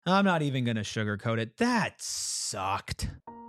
I'm not even going to sugarcoat it. That sucked.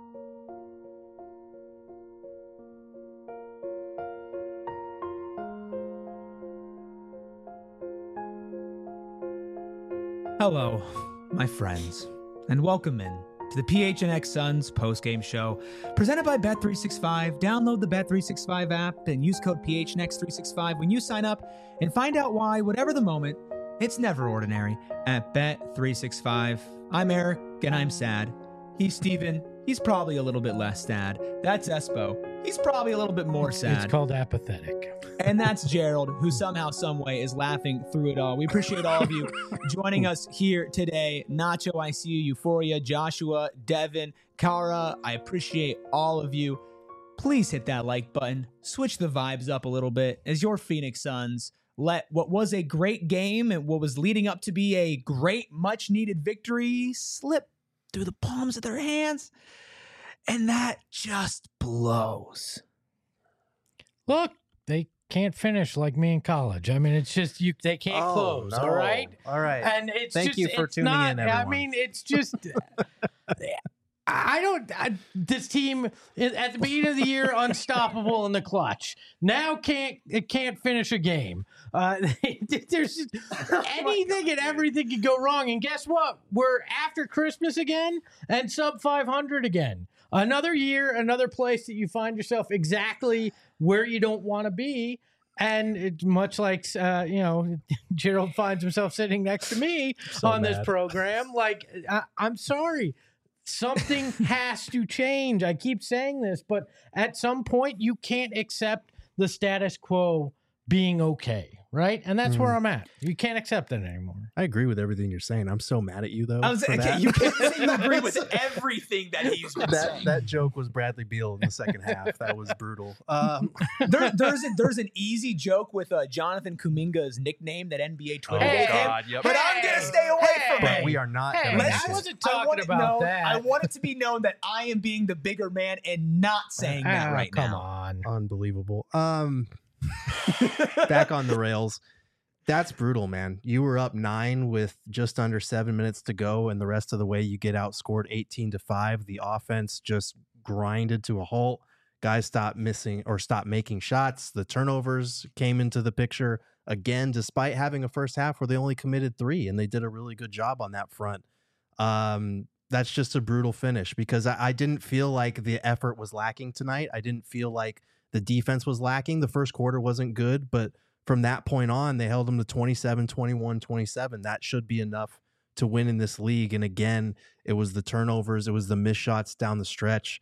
Hello, my friends, and welcome in to the PHNX Suns postgame show presented by Bet365. Download the Bet365 app and use code PHNX365 when you sign up and find out why, whatever the moment, it's never ordinary at Bet365. I'm Eric, and I'm sad. He's Steven. He's probably a little bit less sad. That's Espo. He's probably a little bit more sad. It's called apathetic. And that's Gerald, who somehow, someway is laughing through it all. We appreciate all of you joining us here today. Nacho, I see you. Euphoria, Joshua, Devin, Kara, I appreciate all of you. Please hit that like button. Switch the vibes up a little bit as your Phoenix Suns let what was a great game and what was leading up to be a great, much-needed victory slip through the palms of their hands. And that just blows. Look, they can't finish like me in college. I mean, it's just they can't close. No. All right. And it's thank just, you for it's tuning not, in, everyone. I mean, it's just this team at the beginning of the year unstoppable in the clutch. Now it can't finish a game. There's just anything and everything can go wrong. And guess what? We're after Christmas again and sub 500 again. Another year, another place that you find yourself exactly where you don't want to be. And it's much like, Gerald finds himself sitting next to me on this program. Like, I'm sorry. Something has to change. I keep saying this, but at some point you can't accept the status quo being okay, right? And that's where I'm at. You can't accept it anymore. I agree with everything you're saying. I'm so mad at you, though. You can't say you agree with everything that he's been saying. That joke was Bradley Beal in the second half. That was brutal. There's an easy joke with Jonathan Kuminga's nickname that NBA Twitter gave him. Yep. But I'm going to stay away from But it. we are not. Hey, gonna I make it. wasn't talking about that. I want it to be known that I am being the bigger man and not saying that right come now. on. Unbelievable. Back on the rails. That's brutal, man. You were up 9 with just under 7 minutes to go, and the rest of the way you get outscored 18-5. The offense just grinded to a halt. Guys stopped making shots. The turnovers came into the picture again, despite having a first half where they only committed 3, and they did a really good job on that front. That's just a brutal finish because I didn't feel like the effort was lacking tonight. I didn't feel like the defense was lacking. The first quarter wasn't good, but from that point on, they held them to 27, 21, 27. That should be enough to win in this league. And again, it was the turnovers. It was the missed shots down the stretch.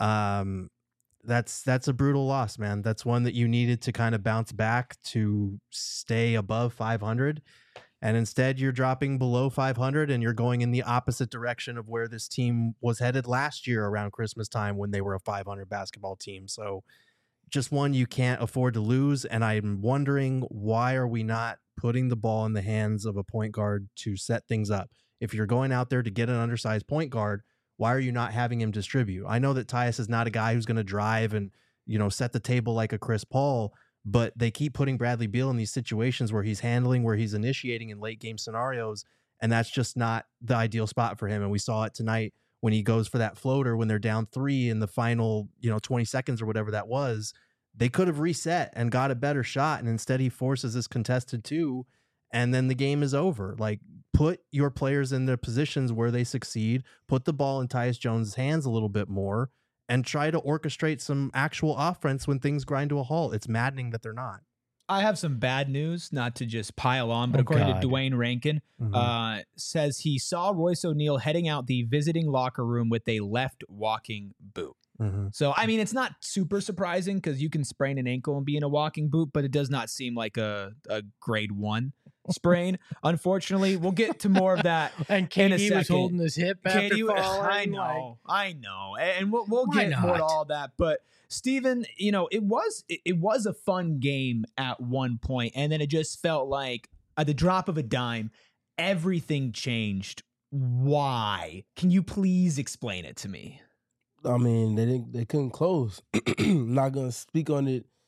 That's a brutal loss, man. That's one that you needed to kind of bounce back to stay above 500. And instead, you're dropping below 500 and you're going in the opposite direction of where this team was headed last year around Christmas time when they were a 500 basketball team. So just one you can't afford to lose. And I'm wondering, why are we not putting the ball in the hands of a point guard to set things up? If you're going out there to get an undersized point guard, why are you not having him distribute? I know that Tyus is not a guy who's going to drive and, set the table like a Chris Paul, but they keep putting Bradley Beal in these situations where he's handling, where he's initiating in late game scenarios. And that's just not the ideal spot for him. And we saw it tonight when he goes for that floater when they're down 3 in the final, 20 seconds or whatever that was. They could have reset and got a better shot. And instead he forces this contested 2. And then the game is over. Like, put your players in their positions where they succeed, put the ball in Tyus Jones' hands a little bit more, and try to orchestrate some actual offense when things grind to a halt. It's maddening that they're not. I have some bad news, not to just pile on, but according to Dwayne Rankin, says he saw Royce O'Neal heading out the visiting locker room with a left walking boot. So, I mean, it's not super surprising because you can sprain an ankle and be in a walking boot, but it does not seem like a grade 1 sprain. Unfortunately, we'll get to more of that. And KD was holding his hip after falling. I know. And we'll get more to all that. But Steven, it was a fun game at one point, and then it just felt like at the drop of a dime, everything changed. Why? Can you please explain it to me? I mean, they couldn't close. I'm not gonna speak on it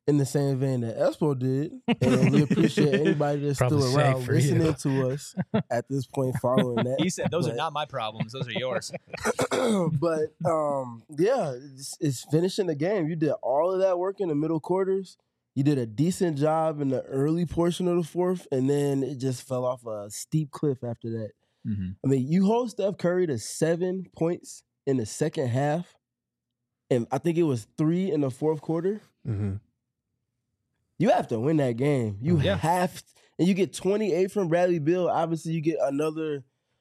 in the same vein that Espo did, and we appreciate anybody that's Probably still safe around for listening you. to us at this point following that. He said, "Those are But- not my problems; those are yours." but yeah, it's finishing the game. You did all of that work in the middle quarters. You did a decent job in the early portion of the fourth, and then it just fell off a steep cliff after that. Mm-hmm. I mean, you hold Steph Curry to 7 points in the second half, and I think it was 3 in the fourth quarter. Mm-hmm. You have to win that game. You Yeah. have, and you get 28 from Bradley Beal. Obviously, you get another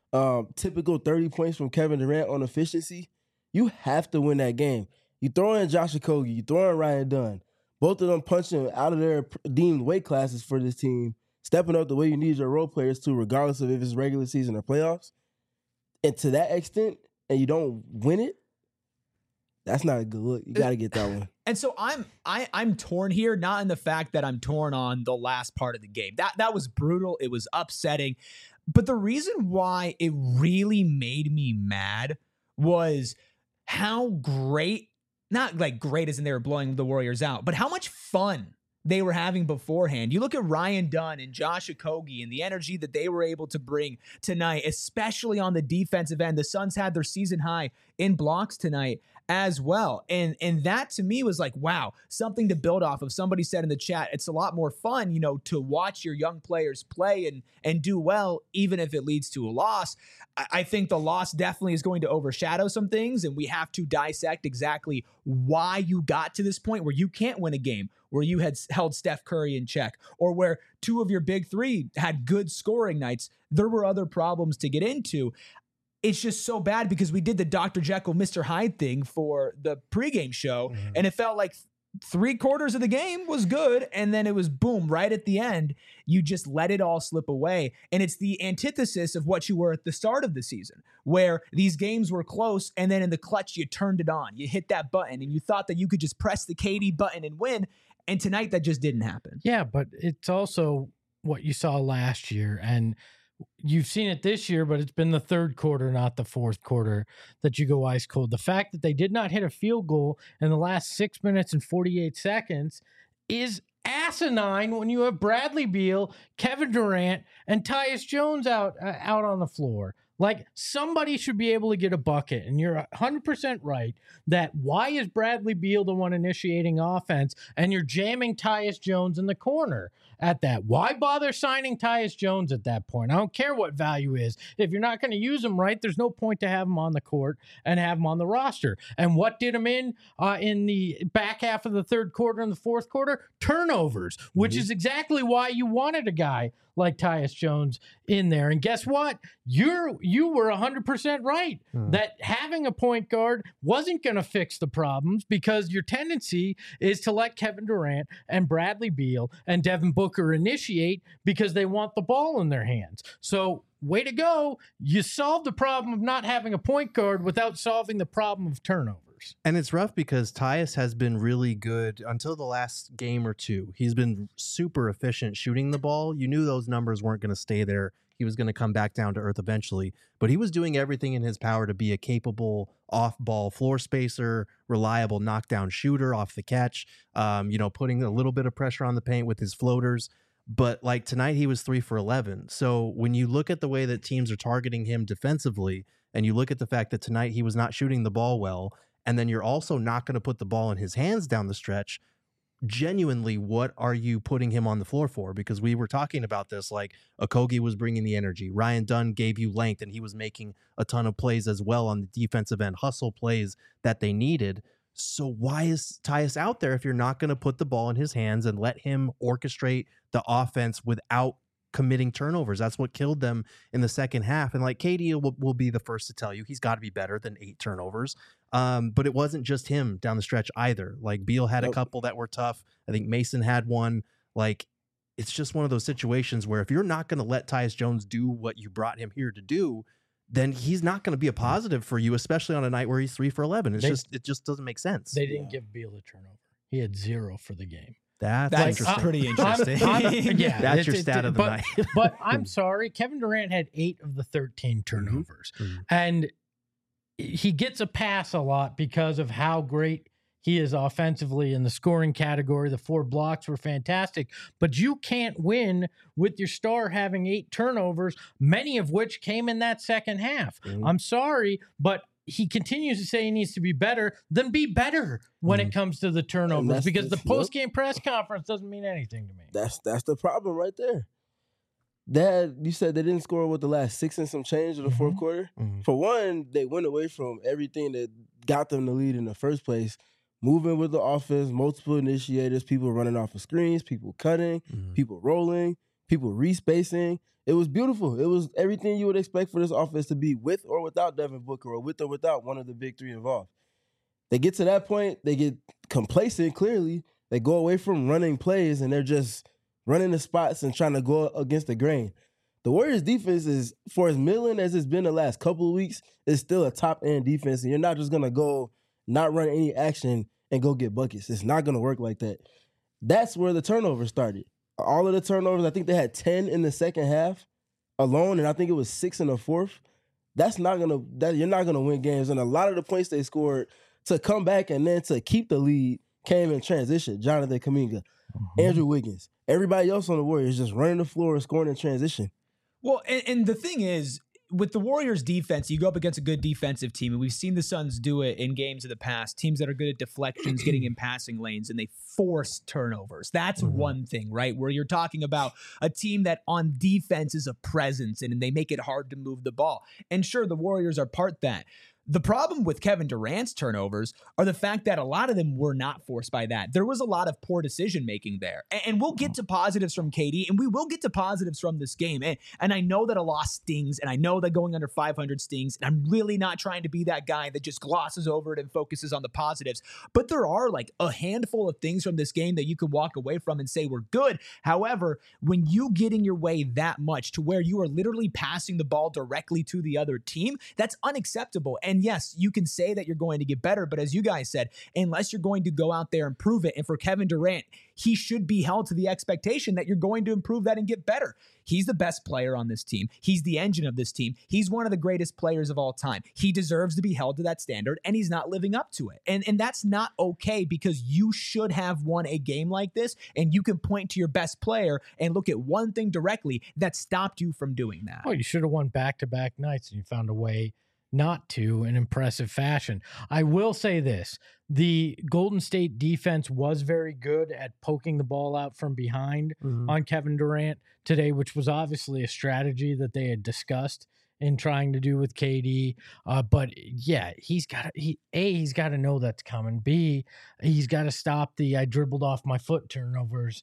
typical 30 points from Kevin Durant on efficiency. You have to win that game. You throw in Josh Okogie, you throw in Ryan Dunn. Both of them punching out of their deemed weight classes for this team, stepping up the way you need your role players to, regardless of if it's regular season or playoffs. And to that extent, and you don't win it, that's not a good look. You got to get that one. And so I'm torn here, not in the fact that I'm torn on the last part of the game. That was brutal. It was upsetting. But the reason why it really made me mad was how great, not like great as in they were blowing the Warriors out, but how much fun they were having beforehand. You look at Ryan Dunn and Josh Okogie and the energy that they were able to bring tonight, especially on the defensive end. The Suns had their season high in blocks tonight as well. And that to me was like, wow, something to build off of. Somebody said in the chat, it's a lot more fun, you know, to watch your young players play and do well, even if it leads to a loss. I think the loss definitely is going to overshadow some things, and we have to dissect exactly why you got to this point where you can't win a game, where you had held Steph Curry in check, or where 2 of your big 3 had good scoring nights. There were other problems to get into. It's just so bad because we did the Dr. Jekyll, Mr. Hyde thing for the pregame show, and it felt like 3/4 of the game was good, and then it was boom, right at the end, you just let it all slip away. And it's the antithesis of what you were at the start of the season, where these games were close, and then in the clutch, you turned it on. You hit that button, and you thought that you could just press the KD button and win, and tonight that just didn't happen. Yeah, but it's also what you saw last year, and you've seen it this year, but it's been the third quarter, not the fourth quarter, that you go ice cold. The fact that they did not hit a field goal in the last 6 minutes and 48 seconds is asinine when you have Bradley Beal, Kevin Durant, and Tyus Jones out on the floor. Like, somebody should be able to get a bucket, and you're 100% right that why is Bradley Beal the one initiating offense, and you're jamming Tyus Jones in the corner at that? Why bother signing Tyus Jones at that point? I don't care what value is. If you're not going to use him right, there's no point to have him on the court and have him on the roster. And what did him in the back half of the third quarter and the fourth quarter? Turnovers, which is exactly why you wanted a guy like Tyus Jones in there. And guess what? You were 100% right that having a point guard wasn't going to fix the problems, because your tendency is to let Kevin Durant and Bradley Beal and Devin Booker initiate because they want the ball in their hands. So way to go. You solved the problem of not having a point guard without solving the problem of turnovers. And it's rough because Tyus has been really good until the last game or two. He's been super efficient shooting the ball. You knew those numbers weren't going to stay there. He was going to come back down to earth eventually. But he was doing everything in his power to be a capable off-ball floor spacer, reliable knockdown shooter off the catch, putting a little bit of pressure on the paint with his floaters. But like tonight, he was 3 for 11. So when you look at the way that teams are targeting him defensively, and you look at the fact that tonight he was not shooting the ball well, and then you're also not going to put the ball in his hands down the stretch, genuinely, what are you putting him on the floor for? Because we were talking about this, like Okogie was bringing the energy. Ryan Dunn gave you length, and he was making a ton of plays as well on the defensive end, hustle plays that they needed. So why is Tyus out there if you're not going to put the ball in his hands and let him orchestrate the offense without committing turnovers? That's what killed them in the second half. And like KD will be the first to tell you, he's got to be better than 8 turnovers. But it wasn't just him down the stretch either. Like Beal had a couple that were tough. I think Mason had one. Like, it's just one of those situations where if you're not going to let Tyus Jones do what you brought him here to do, then he's not going to be a positive for you, especially on a night where he's 3 for 11. It just doesn't make sense. They didn't give Beal a turnover. He had 0 for the game. That's interesting. Pretty interesting. Yeah, that's your stat of the night. But I'm sorry, Kevin Durant had 8 of the 13 turnovers. And he gets a pass a lot because of how great he is offensively in the scoring category. The 4 blocks were fantastic, but you can't win with your star having 8 turnovers, many of which came in that second half. I'm sorry, but he continues to say he needs to be better. Then be better when it comes to the turnovers, because the post-game press conference doesn't mean anything to me. That's the problem right there. You said they didn't score with the last 6 and some change of the fourth quarter. For one, they went away from everything that got them the lead in the first place. Moving with the offense, multiple initiators, people running off of screens, people cutting, people rolling, people respacing. It was beautiful. It was everything you would expect for this offense to be, with or without Devin Booker, or with or without one of the big 3 involved. They get to that point, they get complacent, clearly. They go away from running plays, and they're just running the spots and trying to go against the grain. The Warriors' defense is, for as middling as it's been the last couple of weeks, is still a top-end defense, and you're not just going to go not run any action and go get buckets. It's not going to work like that. That's where the turnovers started. All of the turnovers, I think they had 10 in the second half alone, and I think it was 6 in the fourth. You're not gonna win games. And a lot of the points they scored to come back and then to keep the lead came in transition. Jonathan Kuminga, Andrew Wiggins, everybody else on the Warriors just running the floor and scoring in transition. Well, and the thing is, with the Warriors defense, you go up against a good defensive team, and we've seen the Suns do it in games of the past, teams that are good at deflections, getting in passing lanes, and they force turnovers. That's one thing, right? Where you're talking about a team that on defense is a presence, and they make it hard to move the ball. And sure, the Warriors are part that. The problem with Kevin Durant's turnovers are the fact that a lot of them were not forced by that. There was a lot of poor decision-making there. And we'll get to positives from KD, and we will get to positives from this game. And I know that a loss stings, and I know that going under 500 stings, and I'm really not trying to be that guy that just glosses over it and focuses on the positives. But there are like a handful of things from this game that you can walk away from and say were good. However, when you get in your way that much to where you are literally passing the ball directly to the other team, that's unacceptable. And yes, you can say that you're going to get better, but as you guys said, unless you're going to go out there and prove it, and for Kevin Durant, he should be held to the expectation that you're going to improve that and get better. He's the best player on this team. He's the engine of this team. He's one of the greatest players of all time. He deserves to be held to that standard, and he's not living up to it. And that's not okay, because you should have won a game like this, and you can point to your best player and look at one thing directly that stopped you from doing that. Well, you should have won back-to-back nights, and you found a way not to in impressive fashion. I will say this. The Golden State defense was very good at poking the ball out from behind on Kevin Durant today, which was obviously a strategy that they had discussed in trying to do with KD. But yeah, he's got to know that's coming. B, he's got to stop the I dribbled off my foot turnovers.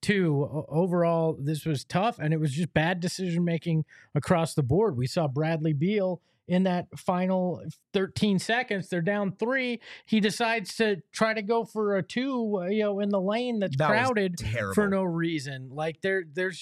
2, overall, this was tough, and it was just bad decision-making across the board. We saw Bradley Beal in that final 13 seconds, they're down 3. He decides to try to go for a 2, in the lane that's crowded for no reason. Like they're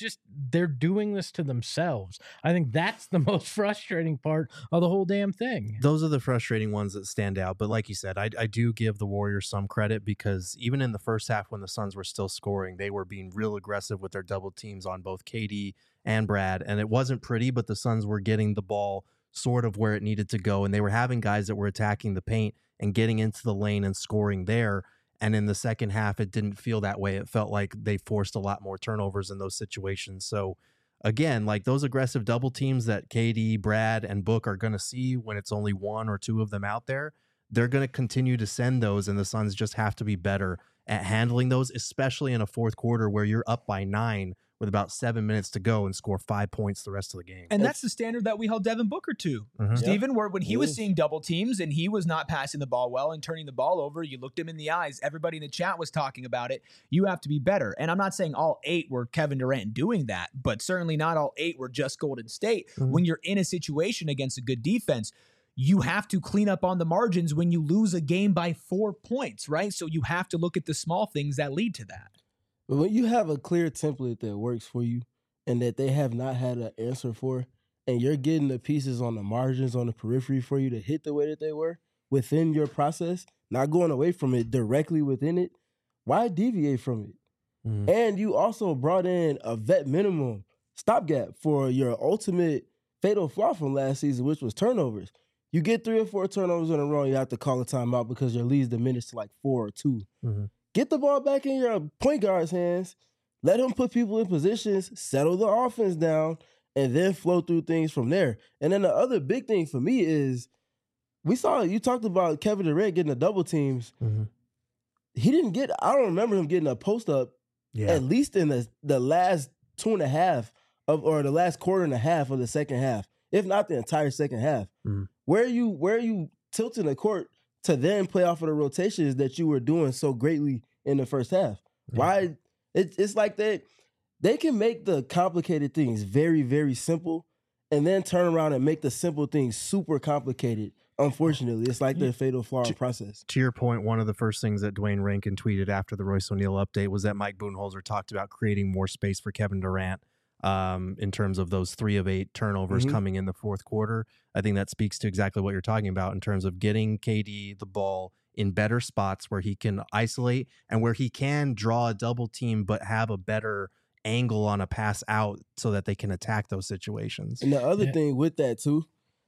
doing this to themselves. I think that's the most frustrating part of the whole damn thing. Those are the frustrating ones that stand out. But like you said, I do give the Warriors some credit, because even in the first half when the Suns were still scoring, they were being real aggressive with their double teams on both KD and Brad. And it wasn't pretty, but the Suns were getting the ball sort of where it needed to go, and they were having guys that were attacking the paint and getting into the lane and scoring there. And in the second half, it didn't feel that way. It felt like they forced a lot more turnovers in those situations. So again, like those aggressive double teams that KD, Brad, and Book are going to see when it's only 1 or 2 of them out there, they're going to continue to send those, and the Suns just have to be better at handling those, especially in a fourth quarter where you're up by 9 with about 7 minutes to go and score 5 points the rest of the game. And that's the standard that we held Devin Booker to. Stephen, when he was seeing double teams and he was not passing the ball well and turning the ball over, you looked him in the eyes. Everybody in the chat was talking about it. You have to be better. And I'm not saying all 8 were Kevin Durant doing that, but certainly not all 8 were just Golden State. When you're in a situation against a good defense, you have to clean up on the margins when you lose a game by 4 points, right? So you have to look at the small things that lead to that. But when you have a clear template that works for you and that they have not had an answer for, and you're getting the pieces on the margins, on the periphery for you to hit the way that they were within your process, not going away from it, directly within it, why deviate from it? And you also brought in a vet minimum stopgap for your ultimate fatal flaw from last season, which was turnovers. You get 3 or 4 turnovers in a row, you have to call a timeout because your lead's diminished to like 4 or 2. Mhm. Get the ball back in your point guard's hands. Let him put people in positions, settle the offense down, and then flow through things from there. And then the other big thing for me is you talked about Kevin Durant getting the double teams. Mhm. He didn't get, I don't remember him getting a post up Yeah. at least in the last 2.5 or the last quarter and a half of the second half, if not the entire second half. Mhm. Where are you tilting the court to then play off of the rotations that you were doing so greatly in the first half? Yeah. Why? It's like they can make the complicated things very, very simple and then turn around and make the simple things super complicated. Unfortunately, it's like their fatal flaw in process. To your point, one of the first things that Dwayne Rankin tweeted after the Royce O'Neal update was that Mike Budenholzer talked about creating more space for Kevin Durant in terms of those 3 of 8 turnovers coming in the fourth quarter. I think that speaks to exactly what you're talking about in terms of getting KD the ball in better spots where he can isolate and where he can draw a double team but have a better angle on a pass out so that they can attack those situations. And the other thing with that too,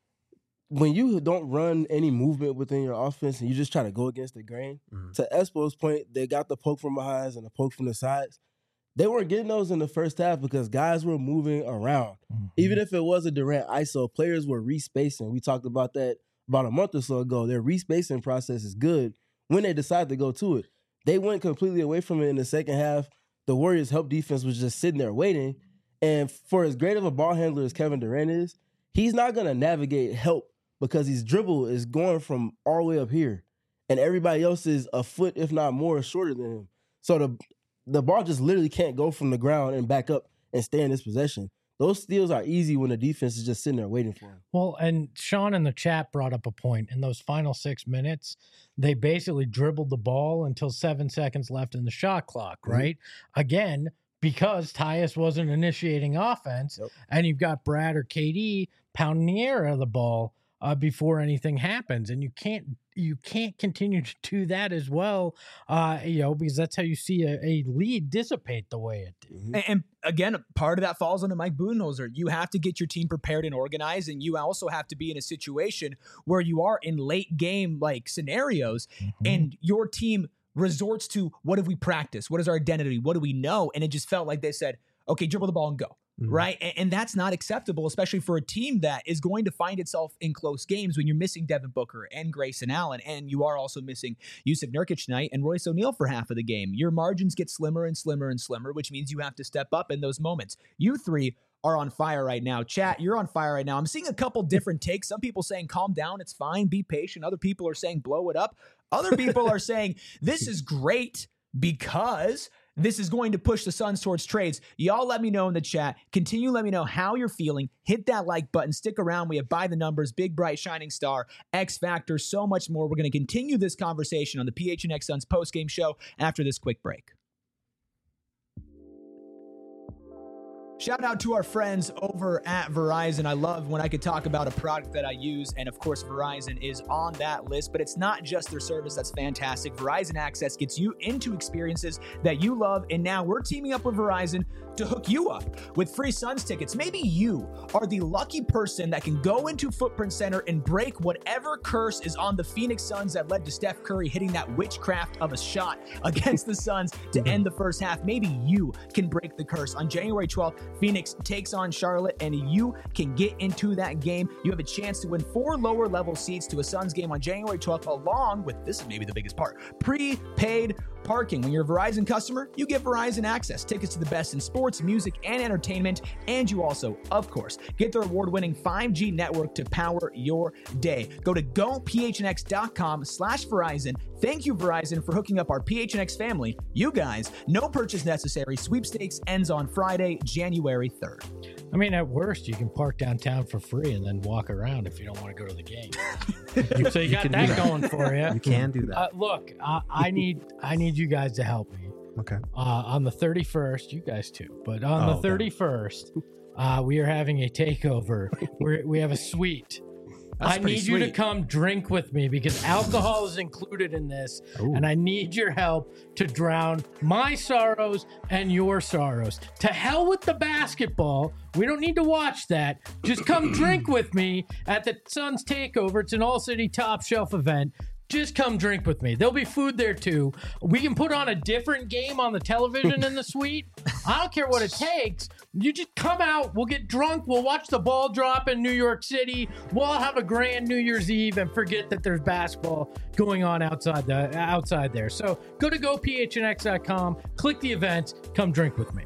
when you don't run any movement within your offense and you just try to go against the grain, to Espo's point, they got the poke from behind and the poke from the sides. They weren't getting those in the first half because guys were moving around. Even if it was a Durant ISO, players were respacing. We talked about that about a month or so ago. Their respacing process is good when they decide to go to it. They went completely away from it in the second half. The Warriors' help defense was just sitting there waiting. And for as great of a ball handler as Kevin Durant is, he's not going to navigate help because his dribble is going from all the way up here. And everybody else is a foot, if not more, shorter than him. So the ball just literally can't go from the ground and back up and stay in this possession. Those steals are easy when the defense is just sitting there waiting for him. Well, and Sean in the chat brought up a point. In those final 6 minutes, they basically dribbled the ball until 7 seconds left in the shot clock, right? Again, because Tyus wasn't initiating offense, and you've got Brad or KD pounding the air out of the ball before anything happens, and you can't continue to do that as well, because that's how you see a lead dissipate the way it did. And again, part of that falls under Mike Budenholzer. You have to get your team prepared and organized, and you also have to be in a situation where you are in late game like scenarios, and your team resorts to, what have we practiced? What is our identity? What do we know? And it just felt like they said, okay, dribble the ball and go. Right. And that's not acceptable, especially for a team that is going to find itself in close games when you're missing Devin Booker and Grayson Allen. And you are also missing Jusuf Nurkic tonight and Royce O'Neal for half of the game. Your margins get slimmer and slimmer and slimmer, which means you have to step up in those moments. You three are on fire right now. Chat, you're on fire right now. I'm seeing a couple different takes. Some people saying, calm down, it's fine, be patient. Other people are saying, blow it up. Other people are saying, this is great because this is going to push the Suns towards trades. Y'all let me know in the chat. Continue, let me know how you're feeling. Hit that like button. Stick around. We have By the Numbers, Big Bright Shining Star, X Factor, so much more. We're going to continue this conversation on the PHNX Suns postgame show after this quick break. Shout out to our friends over at Verizon. I love when I could talk about a product that I use, and of course Verizon is on that list, but it's not just their service that's fantastic. Verizon Access gets you into experiences that you love, and now we're teaming up with Verizon to hook you up with free Suns tickets. Maybe you are the lucky person that can go into Footprint Center and break whatever curse is on the Phoenix Suns that led to Steph Curry hitting that witchcraft of a shot against the Suns to end the first half. Maybe you can break the curse. On January 12th, Phoenix takes on Charlotte, and you can get into that game. You have a chance to win 4 lower level seats to a Suns game on January 12th, along with, this is maybe the biggest part, prepaid parking. When you're a Verizon customer, you get Verizon Access, tickets to the best in sports, music, and entertainment, and you also, of course, get their award-winning 5G network to power your day. Go to gophnx.com/Verizon. Thank you, Verizon, for hooking up our PHNX family. You guys, no purchase necessary. Sweepstakes ends on Friday, January 3rd. I mean, at worst, you can park downtown for free and then walk around if you don't want to go to the game. So you got that going for you. You can do that. Look, I need you guys to help me. Okay. On the 31st, you guys too, but on the 31st, we are having a takeover. We have a suite I need you to come drink with me because alcohol is included in this. Ooh. And I need your help to drown my sorrows and your sorrows. To hell with the basketball. We don't need to watch that. Just come drink with me at the Suns Takeover. It's an all-city top shelf event. Just come drink with me. There'll be food there too. We can put on a different game on the television in the suite. I don't care what it takes. You just come out. We'll get drunk. We'll watch the ball drop in New York City. We'll have a grand New Year's Eve and forget that there's basketball going on outside there. So go to gophnx.com, click the events, come drink with me.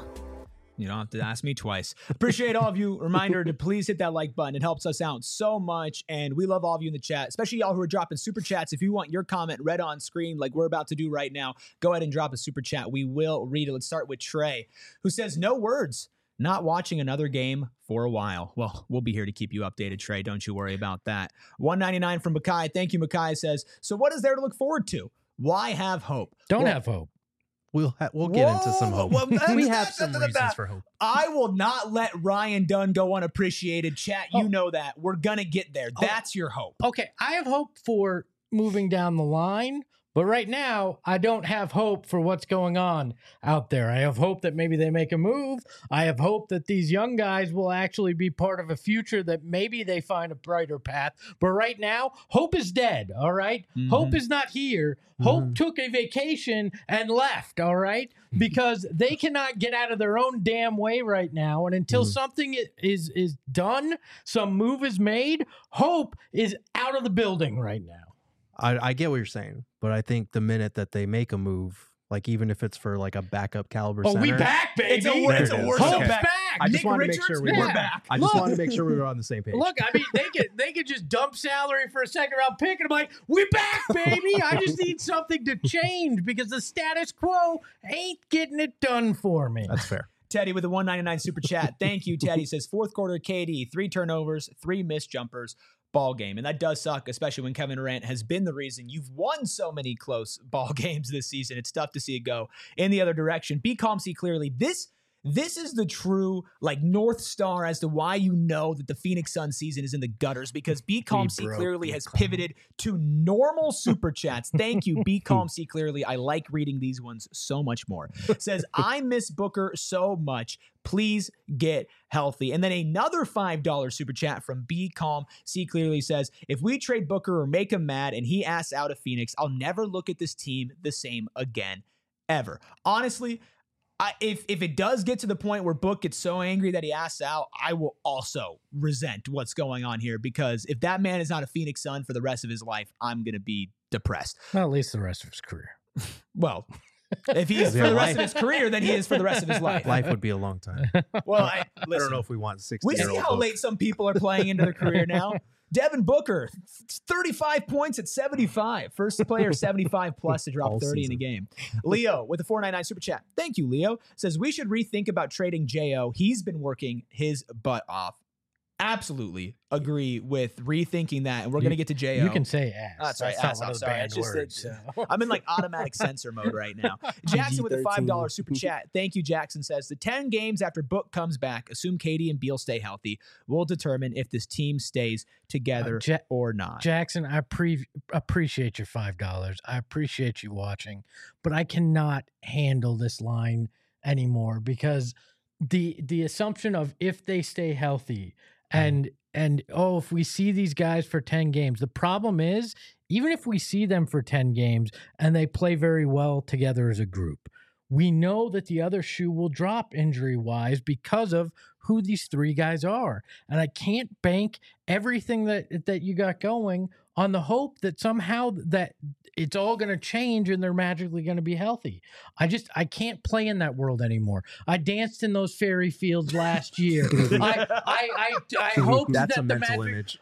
You don't have to ask me twice. Appreciate all of you. Reminder to please hit that like button. It helps us out so much. And we love all of you in the chat, especially y'all who are dropping super chats. If you want your comment read on screen like we're about to do right now, go ahead and drop a super chat. We will read it. Let's start with Trey, who says, no words. Not watching another game for a while. Well, we'll be here to keep you updated, Trey. Don't you worry about that. $1.99 from Makai. Thank you, Makai. Says, so what is there to look forward to? Why have hope? Don't have hope. We'll get into some hope. Well, we have some reasons for hope. I will not let Ryan Dunn go unappreciated. Chat, you know that. We're going to get there. That's your hope. Okay, I have hope for moving down the line, but right now, I don't have hope for what's going on out there. I have hope that maybe they make a move. I have hope that these young guys will actually be part of a future that maybe they find a brighter path. But right now, hope is dead, all right? Mm-hmm. Hope is not here. Hope took a vacation and left, all right? Because they cannot get out of their own damn way right now. And until something is done, some move is made, hope is out of the building right now. I get what you're saying, but I think the minute that they make a move, like even if it's for like a backup caliber center. We back, baby. It's a worse Hope's back. I just Nick wanted Richards, to make sure we we're were back. I just wanted to make sure we were on the same page. Look, I mean, they could just dump salary for a second round pick, and I'm like, we back, baby. I just need something to change because the status quo ain't getting it done for me. That's fair. Teddy with a $1.99 super chat. Thank you, Teddy. Says fourth quarter KD, 3 turnovers, 3 missed jumpers. Ball game. And that does suck, especially when Kevin Durant has been the reason you've won so many close ball games this season. It's tough to see it go in the other direction. Be calm, see clearly. This is the true like North Star as to why you know that the Phoenix Suns season is in the gutters, because Be Calm See Clearly has pivoted to normal super chats. Thank you, Be Calm See Clearly. I like reading these ones so much more. Says, I miss Booker so much. Please get healthy. And then another $5 super chat from Be Calm See Clearly says, if we trade Booker or make him mad and he asks out of Phoenix, I'll never look at this team the same again, ever. Honestly, if it does get to the point where Book gets so angry that he asks out, I will also resent what's going on here, because if that man is not a Phoenix Sun for the rest of his life, I'm going to be depressed. Well, at least the rest of his career. Well, if he is for the rest of his career, then he is for the rest of his life. Life would be a long time. Well, I don't know if we want 60. We see how late some people are playing into their career now. Devin Booker, 35 points at 75. First player 75 plus to drop 30 in a game. Leo with a $4.99 super chat. Thank you, Leo. Says we should rethink about trading J.O. He's been working his butt off. Absolutely agree with rethinking that, and we're going to get to J.O. You can say ass. That's right. That's Ass, not one I'm of the sorry. bad It's just words. I'm in like automatic censor mode right now. Jackson with a $5 super chat. Thank you, Jackson. Says the 10 games after Book comes back, assume KD and Beal stay healthy, will determine if this team stays together or not. Jackson, I appreciate your $5. I appreciate you watching, but I cannot handle this line anymore, because the assumption of if they stay healthy and if we see these guys for 10 games, the problem is, even if we see them for 10 games and they play very well together as a group, we know that the other shoe will drop injury-wise because of who these 3 guys are. And I can't bank everything that you got going on the hope that somehow that it's all going to change and they're magically going to be healthy. I can't play in that world anymore. I danced in those fairy fields last year. I hoped that's that a the mental magic, image.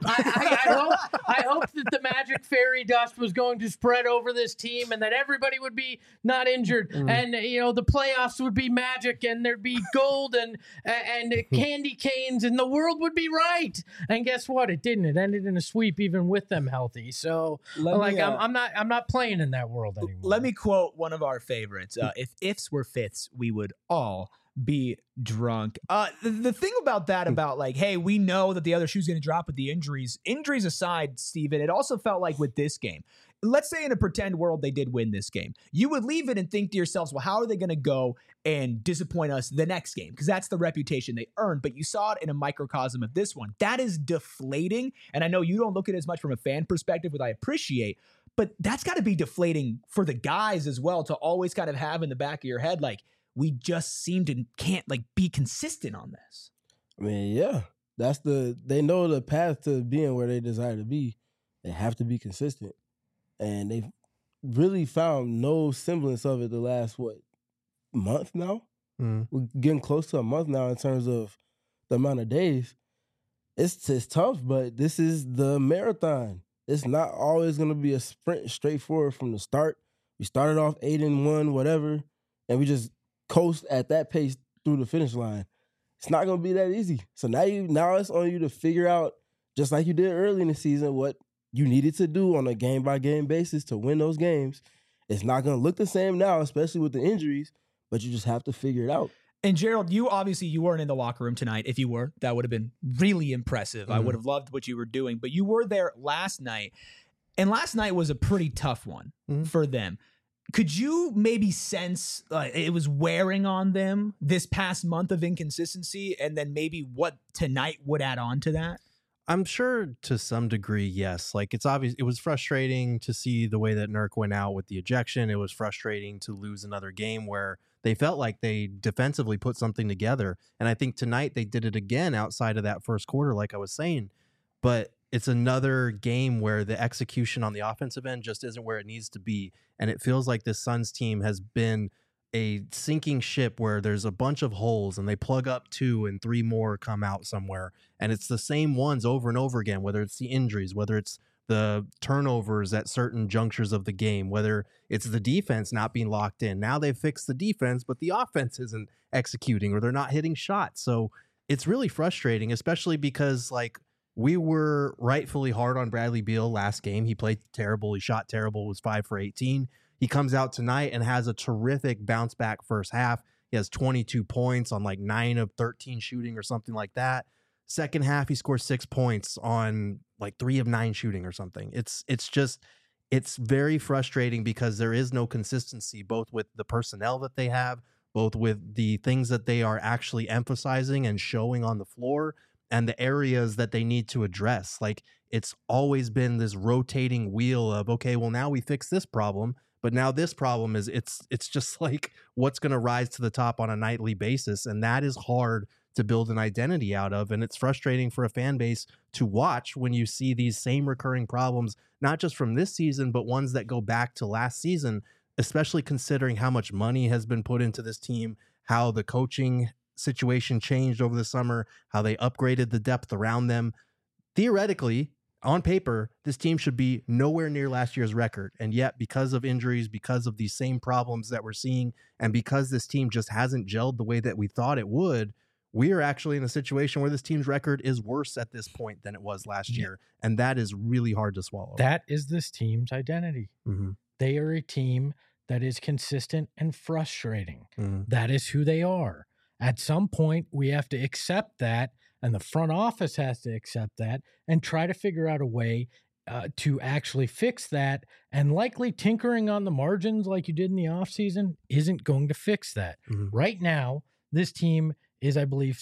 I hoped that the magic fairy dust was going to spread over this team and that everybody would be not injured, and the playoffs would be magic and there'd be gold and candy canes and the world would be right. And guess what? It didn't. It ended in a sweep even with them healthy. So I'm not playing in that world anymore. Let me quote one of our favorites. If ifs were fifths, we would all be drunk. The thing about that, about like, hey, we know that the other shoe's going to drop with the injuries aside, Steven, it also felt like with this game, let's say in a pretend world they did win this game, you would leave it and think to yourselves, well, how are they going to go and disappoint us the next game? Because that's the reputation they earned. But you saw it in a microcosm of this one. That is deflating. And I know you don't look at it as much from a fan perspective, which I appreciate, but that's got to be deflating for the guys as well, to always kind of have in the back of your head, like, we just can't like be consistent on this. I mean, yeah, they know the path to being where they desire to be. They have to be consistent. And they've really found no semblance of it the last, month now? We're getting close to a month now in terms of the amount of days. It's tough, but this is the marathon. It's not always going to be a sprint straightforward from the start. We started off 8-1, whatever, and we just coast at that pace through the finish line. It's not going to be that easy. So now it's on you to figure out, just like you did early in the season, what you needed to do on a game-by-game basis to win those games. It's not going to look the same now, especially with the injuries, but you just have to figure it out. And Gerald, you weren't in the locker room tonight. If you were, that would have been really impressive. I would have loved what you were doing, but you were there last night, and last night was a pretty tough one for them. Could you maybe sense it was wearing on them this past month of inconsistency, and then maybe what tonight would add on to that? I'm sure to some degree, yes. Like, it's obvious it was frustrating to see the way that Nurk went out with the ejection. It was frustrating to lose another game where they felt like they defensively put something together. And I think tonight they did it again outside of that first quarter, like I was saying. But it's another game where the execution on the offensive end just isn't where it needs to be. And it feels like this Suns team has been a sinking ship where there's a bunch of holes and they plug up 2 and 3 more come out somewhere. And it's the same ones over and over again, whether it's the injuries, whether it's the turnovers at certain junctures of the game, whether it's the defense not being locked in. Now they've fixed the defense, but the offense isn't executing, or they're not hitting shots. So it's really frustrating, especially because, like, we were rightfully hard on Bradley Beal last game. He played terrible. He shot terrible, was 5 for 18. He comes out tonight and has a terrific bounce back first half. He has 22 points on like 9 of 13 shooting or something like that. Second half, he scores 6 points on like 3 of 9 shooting or something. It's very frustrating because there is no consistency, both with the personnel that they have, both with the things that they are actually emphasizing and showing on the floor, and the areas that they need to address. Like, it's always been this rotating wheel of, okay, well, now we fix this problem, but now this problem is it's just like what's going to rise to the top on a nightly basis. And that is hard to build an identity out of. And it's frustrating for a fan base to watch when you see these same recurring problems, not just from this season, but ones that go back to last season, especially considering how much money has been put into this team, how the coaching situation changed over the summer, how they upgraded the depth around them. Theoretically, on paper, this team should be nowhere near last year's record. And yet, because of injuries, because of these same problems that we're seeing, and because this team just hasn't gelled the way that we thought it would, we are actually in a situation where this team's record is worse at this point than it was last year. And that is really hard to swallow. That is this team's identity. They are a team that is consistent and frustrating. That is who they are. At some point, we have to accept that, and the front office has to accept that and try to figure out a way to actually fix that. And likely tinkering on the margins like you did in the offseason isn't going to fix that. Right now, this team is, I believe,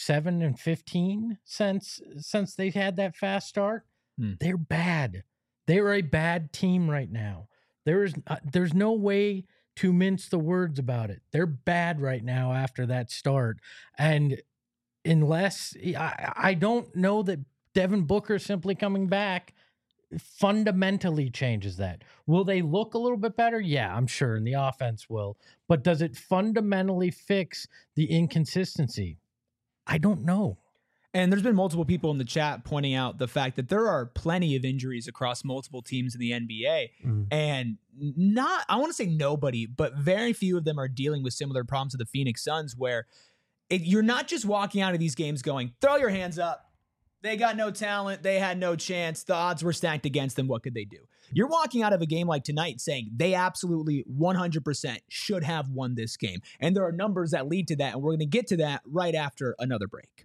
7-15 since they've had that fast start. They're bad. They're a bad team right now. There's no way to mince the words about it. They're bad right now after that start. And unless I don't know that Devin Booker simply coming back fundamentally changes that. Will they look a little bit better? Yeah, I'm sure. And the offense will. But does it fundamentally fix the inconsistency? I don't know. And there's been multiple people in the chat pointing out the fact that there are plenty of injuries across multiple teams in the NBA. And I want to say nobody, but very few of them are dealing with similar problems to the Phoenix Suns, where you're not just walking out of these games going, throw your hands up, They got no talent. They had no chance. The odds were stacked against them. What could they do? You're walking out of a game like tonight saying they absolutely 100% should have won this game. And there are numbers that lead to that, and we're going to get to that right after another break.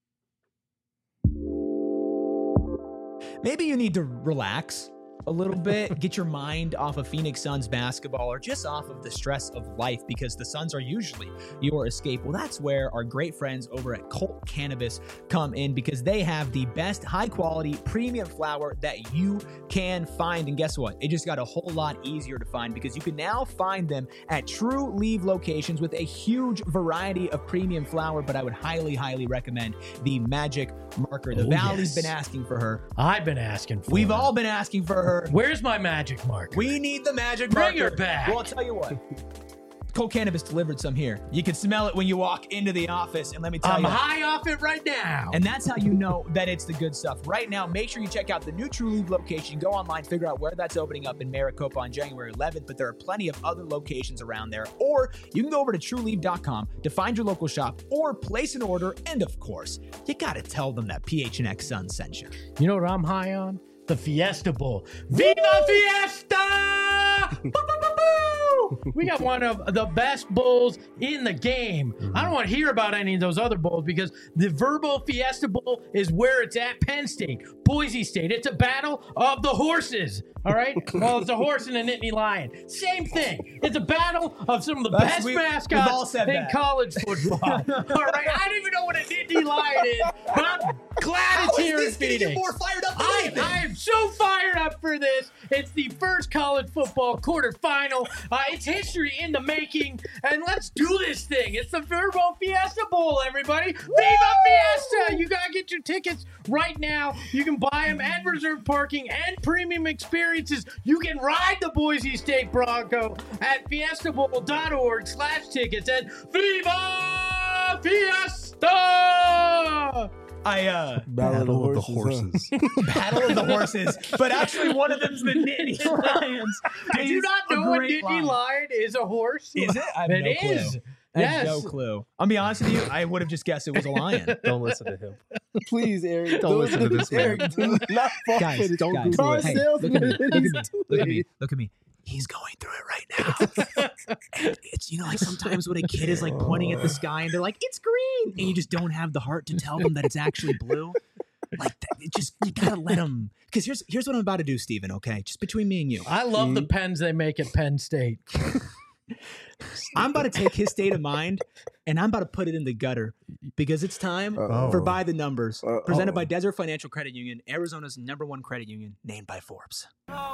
Maybe you need to relax a little bit, get your mind off of Phoenix Suns basketball or just off of the stress of life, because the Suns are usually your escape. Well, that's where our great friends over at Colt Cannabis come in, because they have the best high quality premium flower that you can find. And guess what? It just got a whole lot easier to find, because you can now find them at True Leaf locations with a huge variety of premium flower. But I would highly, highly recommend the Magic Marker. The Valley's been asking for her. I've been asking for We've her. all been asking for her. Where's my Magic Marker? We need the Magic Bring Marker. her back. Well, I'll tell you what. Colt Cannabis delivered some here. You can smell it when you walk into the office, and let me tell I'm you. high off it right now. And that's how you know that it's the good stuff. Right now, make sure you check out the new True Leaf location. Go online, figure out where that's opening up in Maricopa on January 11th, but there are plenty of other locations around there. Or you can go over to trueleaf.com to find your local shop or place an order. And of course, you got to tell them that PHNX Sun sent you. You know what I'm high on? The Fiesta Bowl. Viva Fiesta! Boo, boo, boo, boo! We got one of the best bowls in the game. I don't want to hear about any of those other bowls, because the Verbo Fiesta Bowl is where it's at. Penn State, Boise State. It's a battle of the horses. All right? Well, it's a horse and a Nittany Lion. Same thing. It's a battle of some of the best we've all mascots said in that. college football. All right? I don't even know what a Nittany Lion is, but I'm glad it's here in Phoenix. fired up I am so fired up for this. It's the first college football quarterfinal. It's history in the making, and let's do this thing. It's the Verbo Fiesta Bowl, everybody. Viva Fiesta! You gotta get your tickets right now. You can buy them at reserved parking and premium experiences. You can ride the Boise State Bronco at fiestabowl.org/tickets and Viva Fiesta! Battle of the horses. Battle of the horses, but actually one of them's the Nittany Lions. Did you not know a Nittany Lion is a horse? Is it? I have no clue. is. I have Yes. no clue. I'll be honest with you, I would have just guessed it was a lion. Don't listen to him. Please, Eric. Don't listen to this man. Eric, do not fall Guys, for this. don't Google Car it. Hey, salesman. look at me, He's look at doing me, it. look at me. He's going through it right now. And it's, you know, like sometimes when a kid is like pointing at the sky and they're like, it's green, and you just don't have the heart to tell them that it's actually blue. Like that, it just, you gotta let them. Because here's what I'm about to do, Steven, okay? Just between me and you. I love the pens they make at Penn State. I'm about to take his state of mind and I'm about to put it in the gutter, because it's time for By the Numbers, presented by Desert Financial Credit Union, Arizona's #1 credit union, named by Forbes.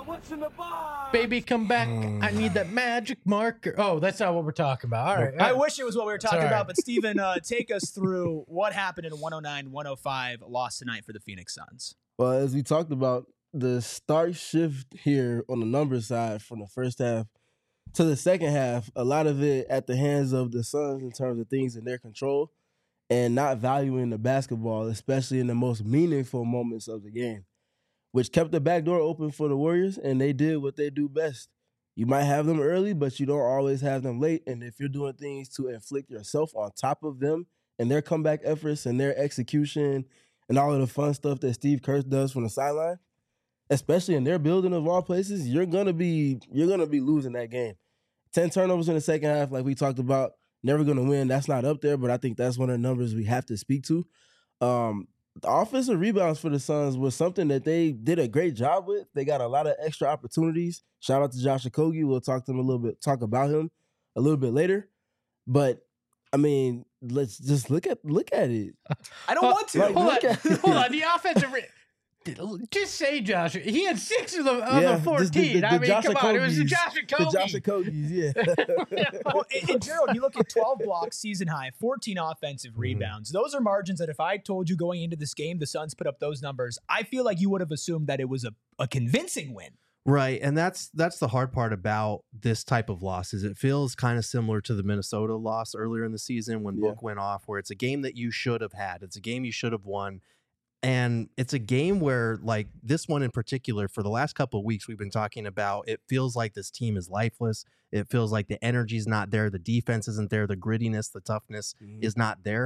Baby, come back. I need that magic marker. Oh, that's not what we're talking about. All right. I wish it was what we were talking all right. about, but Steven, take us through what happened in a 109-105 loss tonight for the Phoenix Suns. Well, as we talked about, the start shift here on the number side from the first half to the second half, a lot of it at the hands of the Suns in terms of things in their control and not valuing the basketball, especially in the most meaningful moments of the game, which kept the back door open for the Warriors, and they did what they do best. You might have them early, but you don't always have them late, and if you're doing things to inflict yourself on top of them and their comeback efforts and their execution and all of the fun stuff that Steve Kerr does from the sideline, especially in their building of all places, you're gonna be losing that game. 10 turnovers in the second half, like we talked about, never gonna win. That's not up there, but I think that's one of the numbers we have to speak to. The offensive rebounds for the Suns was something that they did a great job with. They got a lot of extra opportunities. Shout out to Josh Okogie. We'll talk about him a little bit later. But I mean, let's just look at it. I don't want to. like, Hold look on. at- Hold on. The offensive. Just say Josh. He had 6 of the Yeah, 14. I mean, Josh come on. It was the Okogies. Josh The Okogie. Josh Okogies, yeah. Well, and Gerald, you look at 12 blocks, season high, 14 offensive rebounds. Those are margins that if I told you going into this game, the Suns put up those numbers, I feel like you would have assumed that it was a convincing win. Right, and that's the hard part about this type of loss is it feels kind of similar to the Minnesota loss earlier in the season when Book went off, where it's a game that you should have had. It's a game you should have won. And it's a game where, like this one in particular, for the last couple of weeks, we've been talking about, it feels like this team is lifeless. It feels like the energy's not there. The defense isn't there. The grittiness, the toughness is not there.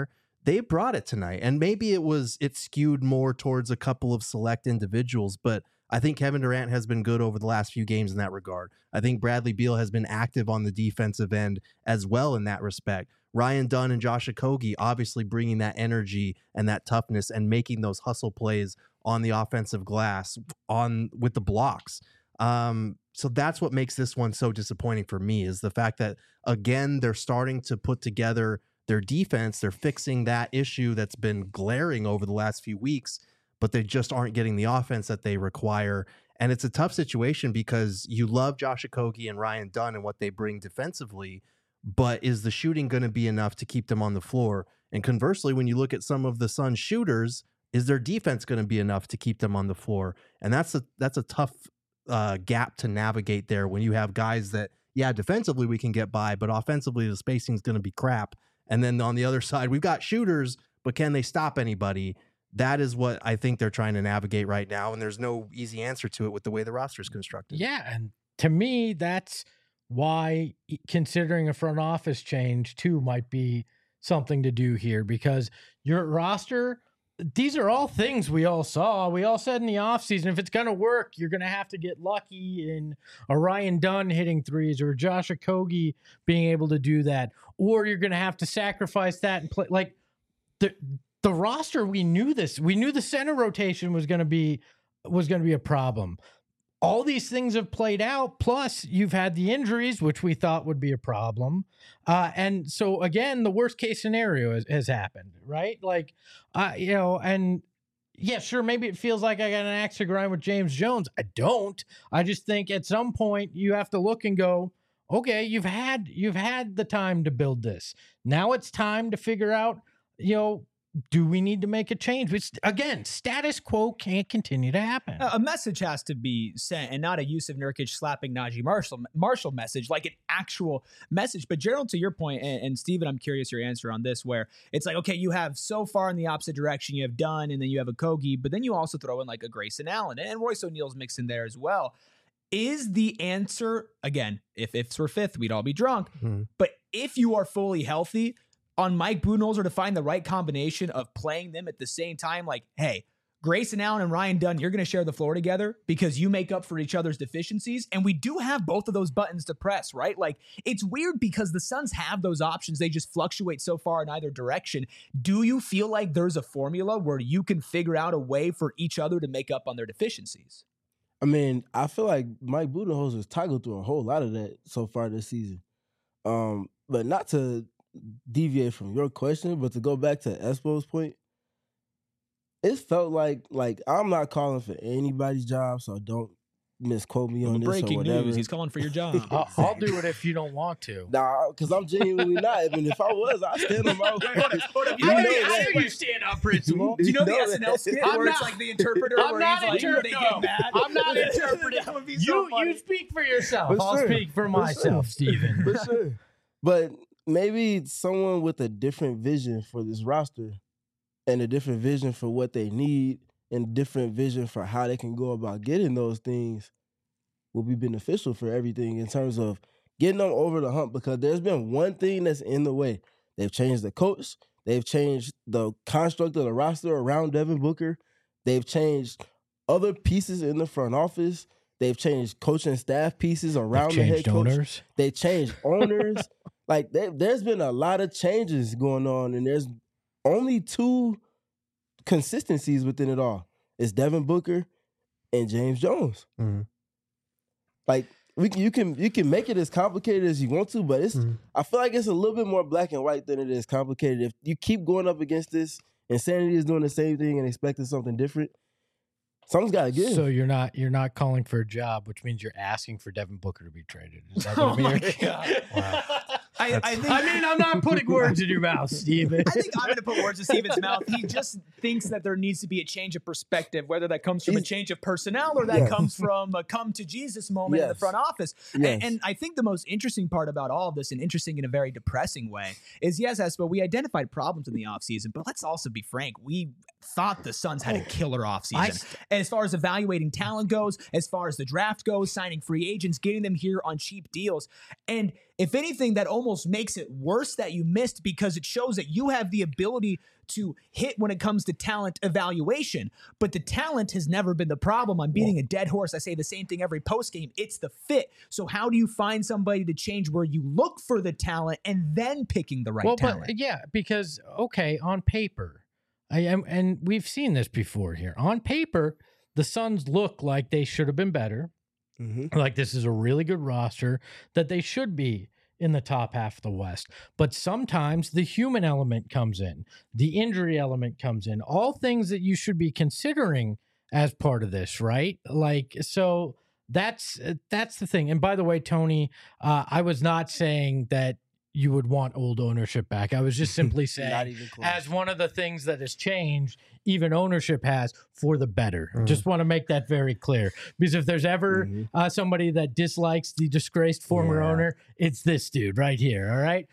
they brought it tonight. And maybe it skewed more towards a couple of select individuals, but I think Kevin Durant has been good over the last few games in that regard. I think Bradley Beal has been active on the defensive end as well in that respect. Ryan Dunn and Josh Okogie obviously bringing that energy and that toughness and making those hustle plays on the offensive glass with the blocks. So that's what makes this one so disappointing for me, is the fact that, again, they're starting to put together their defense. They're fixing that issue that's been glaring over the last few weeks, but they just aren't getting the offense that they require. And it's a tough situation because you love Josh Okogie and Ryan Dunn and what they bring defensively, but is the shooting going to be enough to keep them on the floor? And conversely, when you look at some of the Suns shooters, is their defense going to be enough to keep them on the floor? And that's a tough gap to navigate there when you have guys that, yeah, defensively we can get by, but offensively the spacing is going to be crap. And then on the other side, we've got shooters, but can they stop anybody? That is what I think they're trying to navigate right now, and there's no easy answer to it with the way the roster is constructed. Yeah, and to me, that's why considering a front office change too might be something to do here, because your roster, these are all things we all saw. We all said in the offseason, if it's going to work, you're going to have to get lucky in a Ryan Dunn hitting threes or Josh Okogie being able to do that, or you're going to have to sacrifice that and play like the roster. We knew this. We knew the center rotation was going to be a problem. All these things have played out. Plus, you've had the injuries, which we thought would be a problem. And so, again, the worst case scenario has happened, right? Like, and yeah, sure, maybe it feels like I got an axe to grind with James Jones. I don't. I just think at some point you have to look and go, okay, you've had the time to build this. Now it's time to figure out, do we need to make a change? Which, again, status quo can't continue to happen. A message has to be sent, and not a Yusuf Nurkic slapping Najee Marshall message, like an actual message. But Gerald, to your point, and Steven, I'm curious your answer on this, where it's like, okay, you have so far in the opposite direction, you have Dunn, and then you have Okogie, but then you also throw in like a Grayson Allen, and Royce O'Neal's mixed in there as well. Is the answer, again, if ifs were fifth, we'd all be drunk, but if you are fully healthy, on Mike Budenholzer to find the right combination of playing them at the same time, like, hey, Grayson Allen and Ryan Dunn, you're going to share the floor together because you make up for each other's deficiencies. And we do have both of those buttons to press, right? Like, it's weird because the Suns have those options. They just fluctuate so far in either direction. Do you feel like there's a formula where you can figure out a way for each other to make up on their deficiencies? I mean, I feel like Mike Budenholzer's toggled through a whole lot of that so far this season. But not to deviate from your question, but to go back to Espo's point, it felt like I'm not calling for anybody's job, so don't misquote me on this breaking or whatever. news, he's calling for your job. I'll do it if you don't want to. Nah, because I'm genuinely not. And if I was, I'd stand on my word. I know you stand up, principal. Do you know the SNL skit where it's like the interpreter? I'm not interpreting. I'm not interpreting. That would be so funny. You speak for yourself. For I'll sure. speak for myself, Steven. For sure. But maybe someone with a different vision for this roster and a different vision for what they need and a different vision for how they can go about getting those things will be beneficial for everything in terms of getting them over the hump, because there's been one thing that's in the way. They've changed the coach. They've changed the construct of the roster around Devin Booker. They've changed other pieces in the front office. They've changed coaching staff pieces around the head coach. Owners. They changed owners. Like, there's been a lot of changes going on, and there's only two consistencies within it all. It's Devin Booker and James Jones. Mm-hmm. Like, you can make it as complicated as you want to, but it's I feel like it's a little bit more black and white than it is complicated. If you keep going up against this, insanity is doing the same thing and expecting something different, something's got to give. So you're not calling for a job, which means you're asking for Devin Booker to be traded. Is that what my it means? God. Wow. I think, I'm not putting words in your mouth, Steven. I think I'm going to put words in Steven's mouth. He just thinks that there needs to be a change of perspective, whether that comes from a change of personnel or that comes from a come to Jesus moment in the front office. And I think the most interesting part about all of this, and interesting in a very depressing way, is yes, Espo, we identified problems in the offseason, but let's also be frank. We thought the Suns had a killer offseason. As far as evaluating talent goes, as far as the draft goes, signing free agents, getting them here on cheap deals. And if anything, that almost makes it worse that you missed, because it shows that you have the ability to hit when it comes to talent evaluation. But the talent has never been the problem. I'm beating a dead horse. I say the same thing every postgame. It's the fit. So how do you find somebody to change where you look for the talent and then picking the right talent? But yeah, because, okay, on paper, and we've seen this before here. On paper, the Suns look like they should have been better. Mm-hmm. Like this is a really good roster, that they should be in the top half of the West. But sometimes the human element comes in, the injury element comes in, all things that you should be considering as part of this, right? Like, so that's the thing. And by the way, Tony, I was not saying that you would want old ownership back. I was just simply saying, as one of the things that has changed, even ownership has, for the better. Just want to make that very clear. Because if there's ever somebody that dislikes the disgraced former owner, it's this dude right here, all right?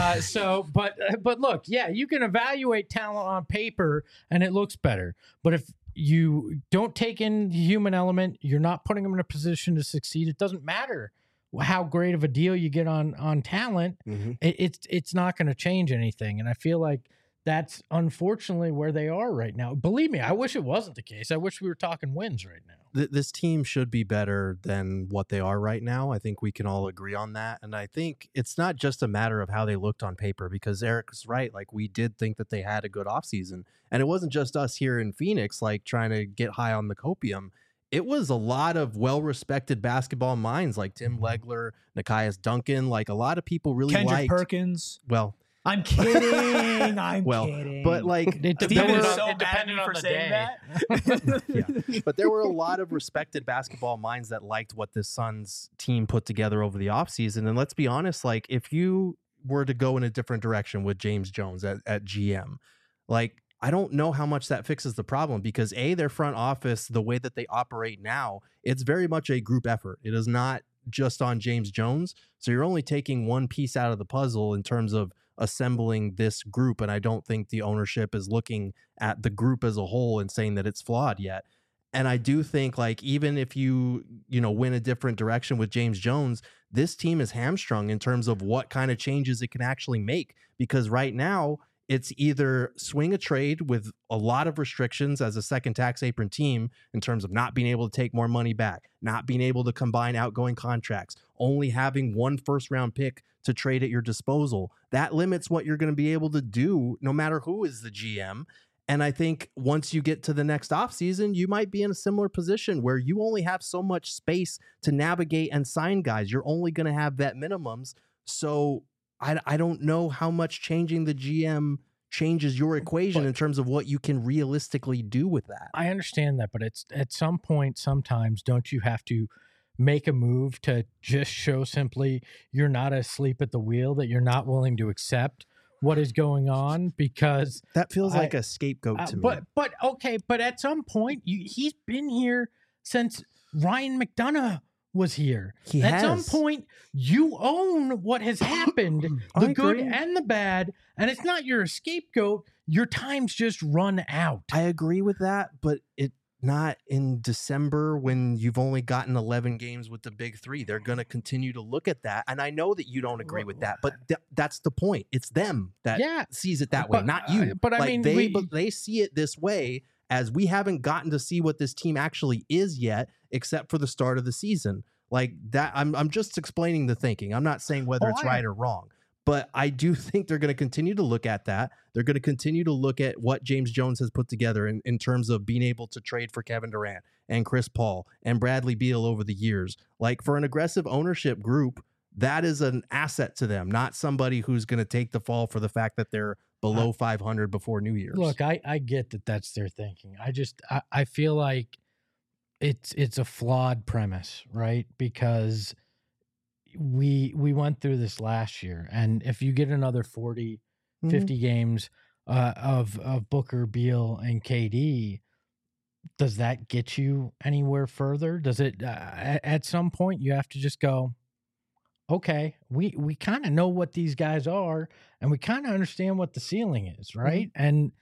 But look, yeah, you can evaluate talent on paper, and it looks better. But if you don't take in the human element, you're not putting them in a position to succeed. It doesn't matter how great of a deal you get on talent. It's not going to change anything. And I feel like that's unfortunately where they are right now. Believe me, I wish it wasn't the case. I wish we were talking wins right now. This team should be better than what they are right now. I think we can all agree on that. And I think it's not just a matter of how they looked on paper, because Eric's right. Like, we did think that they had a good offseason. And it wasn't just us here in Phoenix, like, trying to get high on the copium. It was a lot of well-respected basketball minds like Tim Legler, Nekias Duncan, like a lot of people really Kendrick liked Perkins. Well, I'm kidding. I'm kidding. But like, it depended on the day. Yeah. But there were a lot of respected basketball minds that liked what this Suns team put together over the offseason. And let's be honest, like, if you were to go in a different direction with James Jones at GM, like, I don't know how much that fixes the problem, because their front office, the way that they operate now, it's very much a group effort. It is not just on James Jones. So you're only taking one piece out of the puzzle in terms of assembling this group. And I don't think the ownership is looking at the group as a whole and saying that it's flawed yet. And I do think, like, even if you win a different direction with James Jones, this team is hamstrung in terms of what kind of changes it can actually make. Because right now, it's either swing a trade with a lot of restrictions as a second tax apron team in terms of not being able to take more money back, not being able to combine outgoing contracts, only having one first-round pick to trade at your disposal. That limits what you're going to be able to do no matter who is the GM. And I think once you get to the next offseason, you might be in a similar position where you only have so much space to navigate and sign guys. You're only going to have vet minimums. So I don't know how much changing the GM changes your equation in terms of what you can realistically do with that. I understand that, but it's at some point, sometimes, don't you have to make a move to just show simply you're not asleep at the wheel, that you're not willing to accept what is going on? Because that feels like a scapegoat to me. But at some point, he's been here since Ryan McDonough was here. At some point, you own what has happened, the good and the bad, and it's not your scapegoat. Your time's just run out. I agree with that, but it not in December when you've only gotten 11 games with the big three. They're going to continue to look at that, and I know that you don't agree with that, but that's the point. It's them that sees it that way, not you. But I mean, they see it this way, as we haven't gotten to see what this team actually is yet, except for the start of the season. Like that, I'm just explaining the thinking. I'm not saying whether it's right or wrong, but I do think they're going to continue to look at that. They're going to continue to look at what James Jones has put together in terms of being able to trade for Kevin Durant and Chris Paul and Bradley Beal over the years. Like, for an aggressive ownership group, that is an asset to them, not somebody who's going to take the fall for the fact that they're below 500 before New Year's. Look, I get that that's their thinking. I feel like it's a flawed premise, right? Because we went through this last year, and if you get another 40, 50 games of Booker, Beal, and KD, does that get you anywhere further? Does it at some point you have to just go, okay, we kind of know what these guys are, and we kind of understand what the ceiling is, right? And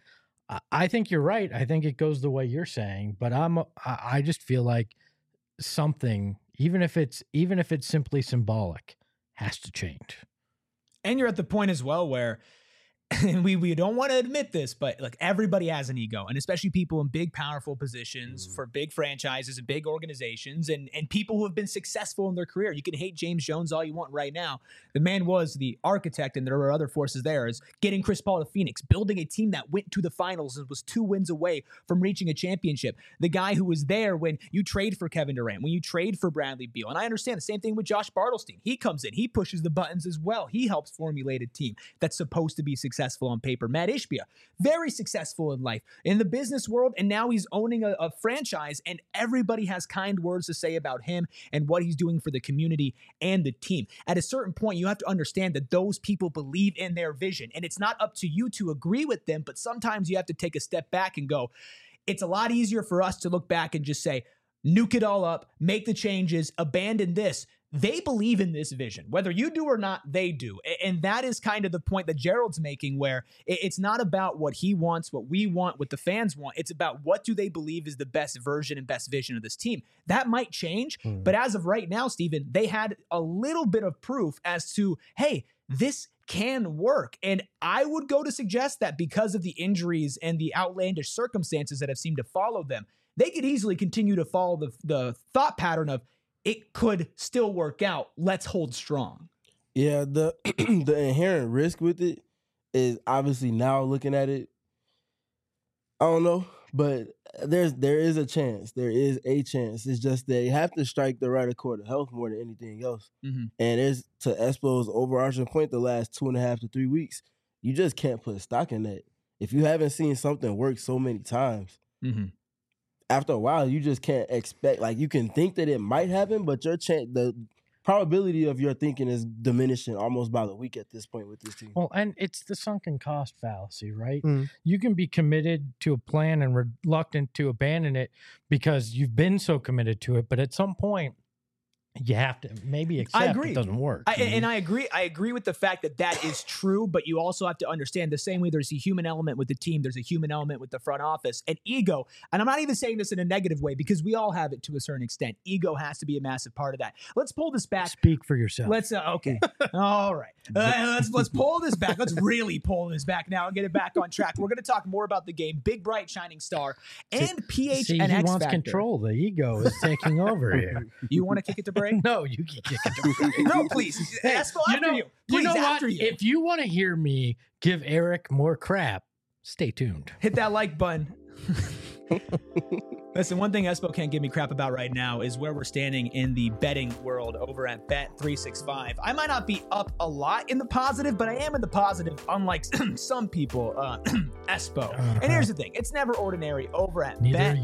I think you're right. I think it goes the way you're saying, but I just feel like something, even if it's simply symbolic, has to change. And you're at the point as well where, and we don't want to admit this, but like everybody has an ego, and especially people in big, powerful positions for big franchises and big organizations, and people who have been successful in their career. You can hate James Jones all you want right now. The man was the architect, and there are other forces there, is getting Chris Paul to Phoenix, building a team that went to the finals and was 2 wins away from reaching a championship. The guy who was there when you trade for Kevin Durant, when you trade for Bradley Beal. And I understand the same thing with Josh Bartlestein. He comes in, he pushes the buttons as well. He helps formulate a team that's supposed to be successful on paper. Matt Ishbia, very successful in life, in the business world, and now he's owning a franchise, and everybody has kind words to say about him and what he's doing for the community and the team. At a certain point, you have to understand that those people believe in their vision, and it's not up to you to agree with them, but sometimes you have to take a step back and go, it's a lot easier for us to look back and just say, nuke it all up, make the changes, abandon this. They believe in this vision. Whether you do or not, they do. And that is kind of the point that Gerald's making, where it's not about what he wants, what we want, what the fans want. It's about what do they believe is the best version and best vision of this team. That might change, but as of right now, Steven, they had a little bit of proof as to, hey, this can work. And I would go to suggest that because of the injuries and the outlandish circumstances that have seemed to follow them, they could easily continue to follow the thought pattern of, it could still work out. Let's hold strong. Yeah, the the inherent risk with it is obviously, now looking at it, I don't know, but there is a chance. There is a chance. It's just they have to strike the right accord of health more than anything else. Mm-hmm. And there's, to Espo's overarching point, the last 2.5 to 3 weeks, you just can't put stock in that. If you haven't seen something work so many times, after a while, you just can't expect, like, you can think that it might happen, but the probability of your thinking is diminishing almost by the week at this point with this team. Well, and it's the sunken cost fallacy, right? You can be committed to a plan and reluctant to abandon it because you've been so committed to it, but at some point, you have to maybe accept it doesn't work. And I agree. I agree with the fact that that is true, but you also have to understand the same way there's a human element with the team, there's a human element with the front office, and ego. And I'm not even saying this in a negative way, because we all have it to a certain extent. Ego has to be a massive part of that. Let's pull this back. Speak for yourself. Let's okay. All right. Let's pull this back. Let's really pull this back now and get it back on track. We're going to talk more about the game, big, bright, shining star, and PH and X He wants Factor. Control. The ego is taking over here. You want to kick it to break? No, you can kick it to break. No, please. Espo, after you. Please, after you. If you want to hear me give Eric more crap, stay tuned. Hit that like button. Listen, one thing Espo can't give me crap about right now is where we're standing in the betting world over at Bet365. I might not be up a lot in the positive, but I am in the positive, unlike some people, Espo. And here's the thing. It's never ordinary over at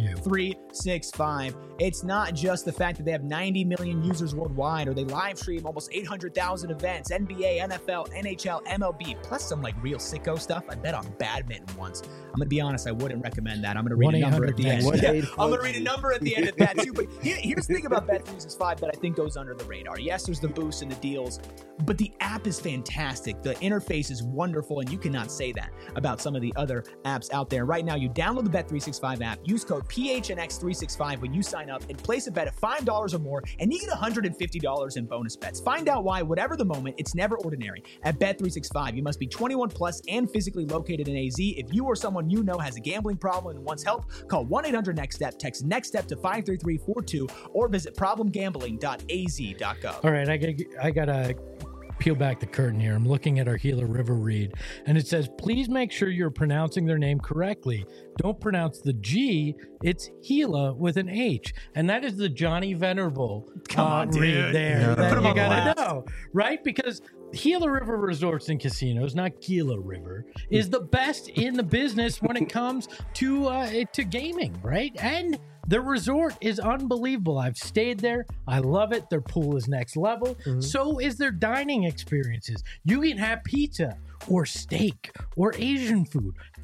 Bet365. It's not just the fact that they have 90 million users worldwide, or they live stream almost 800,000 events, NBA, NFL, NHL, MLB, plus some like real sicko stuff. I bet on badminton once. I'm going to be honest, I wouldn't recommend that. I'm going to read a number at the end. I'm going to read a number at the end of that too. But here's the thing about Bet365 that I think goes under the radar. Yes, there's the boosts and the deals, but the app is fantastic. The interface is wonderful, and you cannot say that about some of the other apps out there. Right now, you download the Bet365 app, use code PHNX365 when you sign up, and place a bet of $5 or more, and you get $150 in bonus bets. Find out why, whatever the moment, it's never ordinary. At Bet365, you must be 21 plus and physically located in AZ. If you or someone you know has a gambling problem and wants help, call 1-800-NEXT-STEP, text next step to 53342, or visit problemgambling.az.gov. All right, I gotta peel back the curtain here. I'm looking at our Gila River read, and it says, please make sure you're pronouncing their name correctly. Don't pronounce the G. It's Gila with an H. And that is the Johnny Venerable read there that you gotta know, right? Because Gila River Resorts and Casinos, not Gila River, is the best in the business when it comes to gaming, right? And the resort is unbelievable. I've stayed there. I love it. Their pool is next level. So is their dining experiences. You can have pizza or steak or Asian food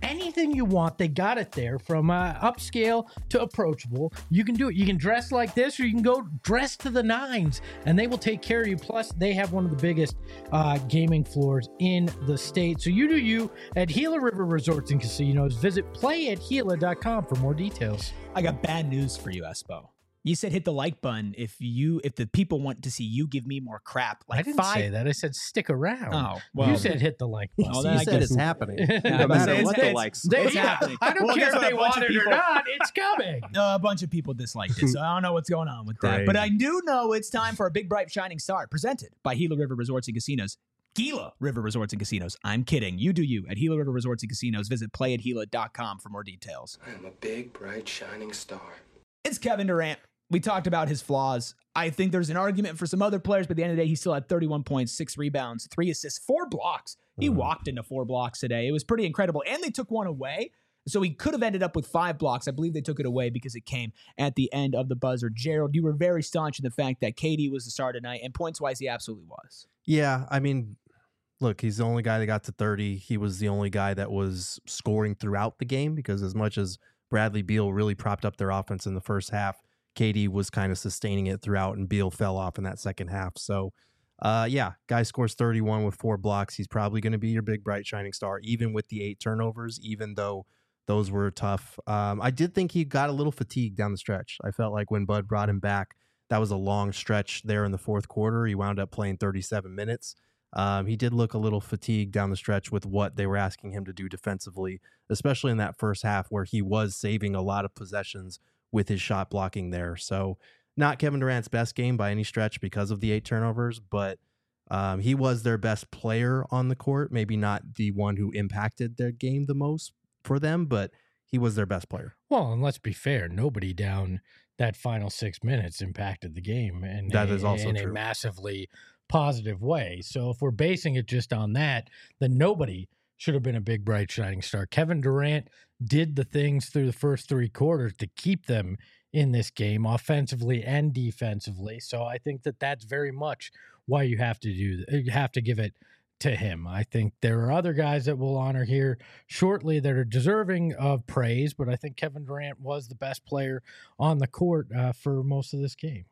anything you want, they got it there, from upscale to approachable. You can do it. You can dress like this, or you can go dress to the nines, and they will take care of you. Plus, they have one of the biggest gaming floors in the state. So you do you at Gila River Resorts and Casinos. Visit playatgila.com for more details. I got bad news for you, Espo. You said hit the like button if the people want to see you give me more crap. Like I didn't say that. I said stick around. Oh, well, you said hit the like button. Well, You said it's happening. No matter what the likes. It's happening. I don't Well, care guess if what? they A bunch want of it or people- not. It's coming. A bunch of people disliked it, so I don't know what's going on with that. But I do know it's time for a big, bright, shining star presented by Gila River Resorts and Casinos. Gila River Resorts and Casinos. I'm kidding. You do you at Gila River Resorts and Casinos. Visit playatgila.com for more details. I'm a big, bright, shining star. It's Kevin Durant. We talked about his flaws. I think there's an argument for some other players, but at the end of the day, he still had 31 points, 6 rebounds, 3 assists, 4 blocks. He walked into 4 blocks today. It was pretty incredible. And they took one away. So he could have ended up with 5 blocks. I believe they took it away because it came at the end of the buzzer. Gerald, you were very staunch in the fact that KD was the star tonight, and points-wise, he absolutely was. Yeah, I mean, look, he's the only guy that got to 30. He was the only guy that was scoring throughout the game, because as much as Bradley Beal really propped up their offense in the first half, KD was kind of sustaining it throughout, and Beal fell off in that second half. So, yeah, guy scores 31 with 4 blocks. He's probably going to be your big, bright, shining star, even with the 8 turnovers, even though those were tough. I did think he got a little fatigued down the stretch. I felt like when Bud brought him back, that was a long stretch there in the fourth quarter. He wound up playing 37 minutes. He did look a little fatigued down the stretch with what they were asking him to do defensively, especially in that first half where he was saving a lot of possessions with his shot blocking there. So not Kevin Durant's best game by any stretch because of the 8 turnovers, but he was their best player on the court. Maybe not the one who impacted their game the most for them, but he was their best player. Well, and let's be fair, nobody down that final 6 minutes impacted the game, and That is also in true. a massively positive way. So if we're basing it just on that, then nobody should have been a big, bright, shining star. Kevin Durant did the things through the first 3 quarters to keep them in this game, offensively and defensively. So I think that that's very much why you have to give it to him. I think there are other guys that we'll honor here shortly that are deserving of praise, but I think Kevin Durant was the best player on the court for most of this game.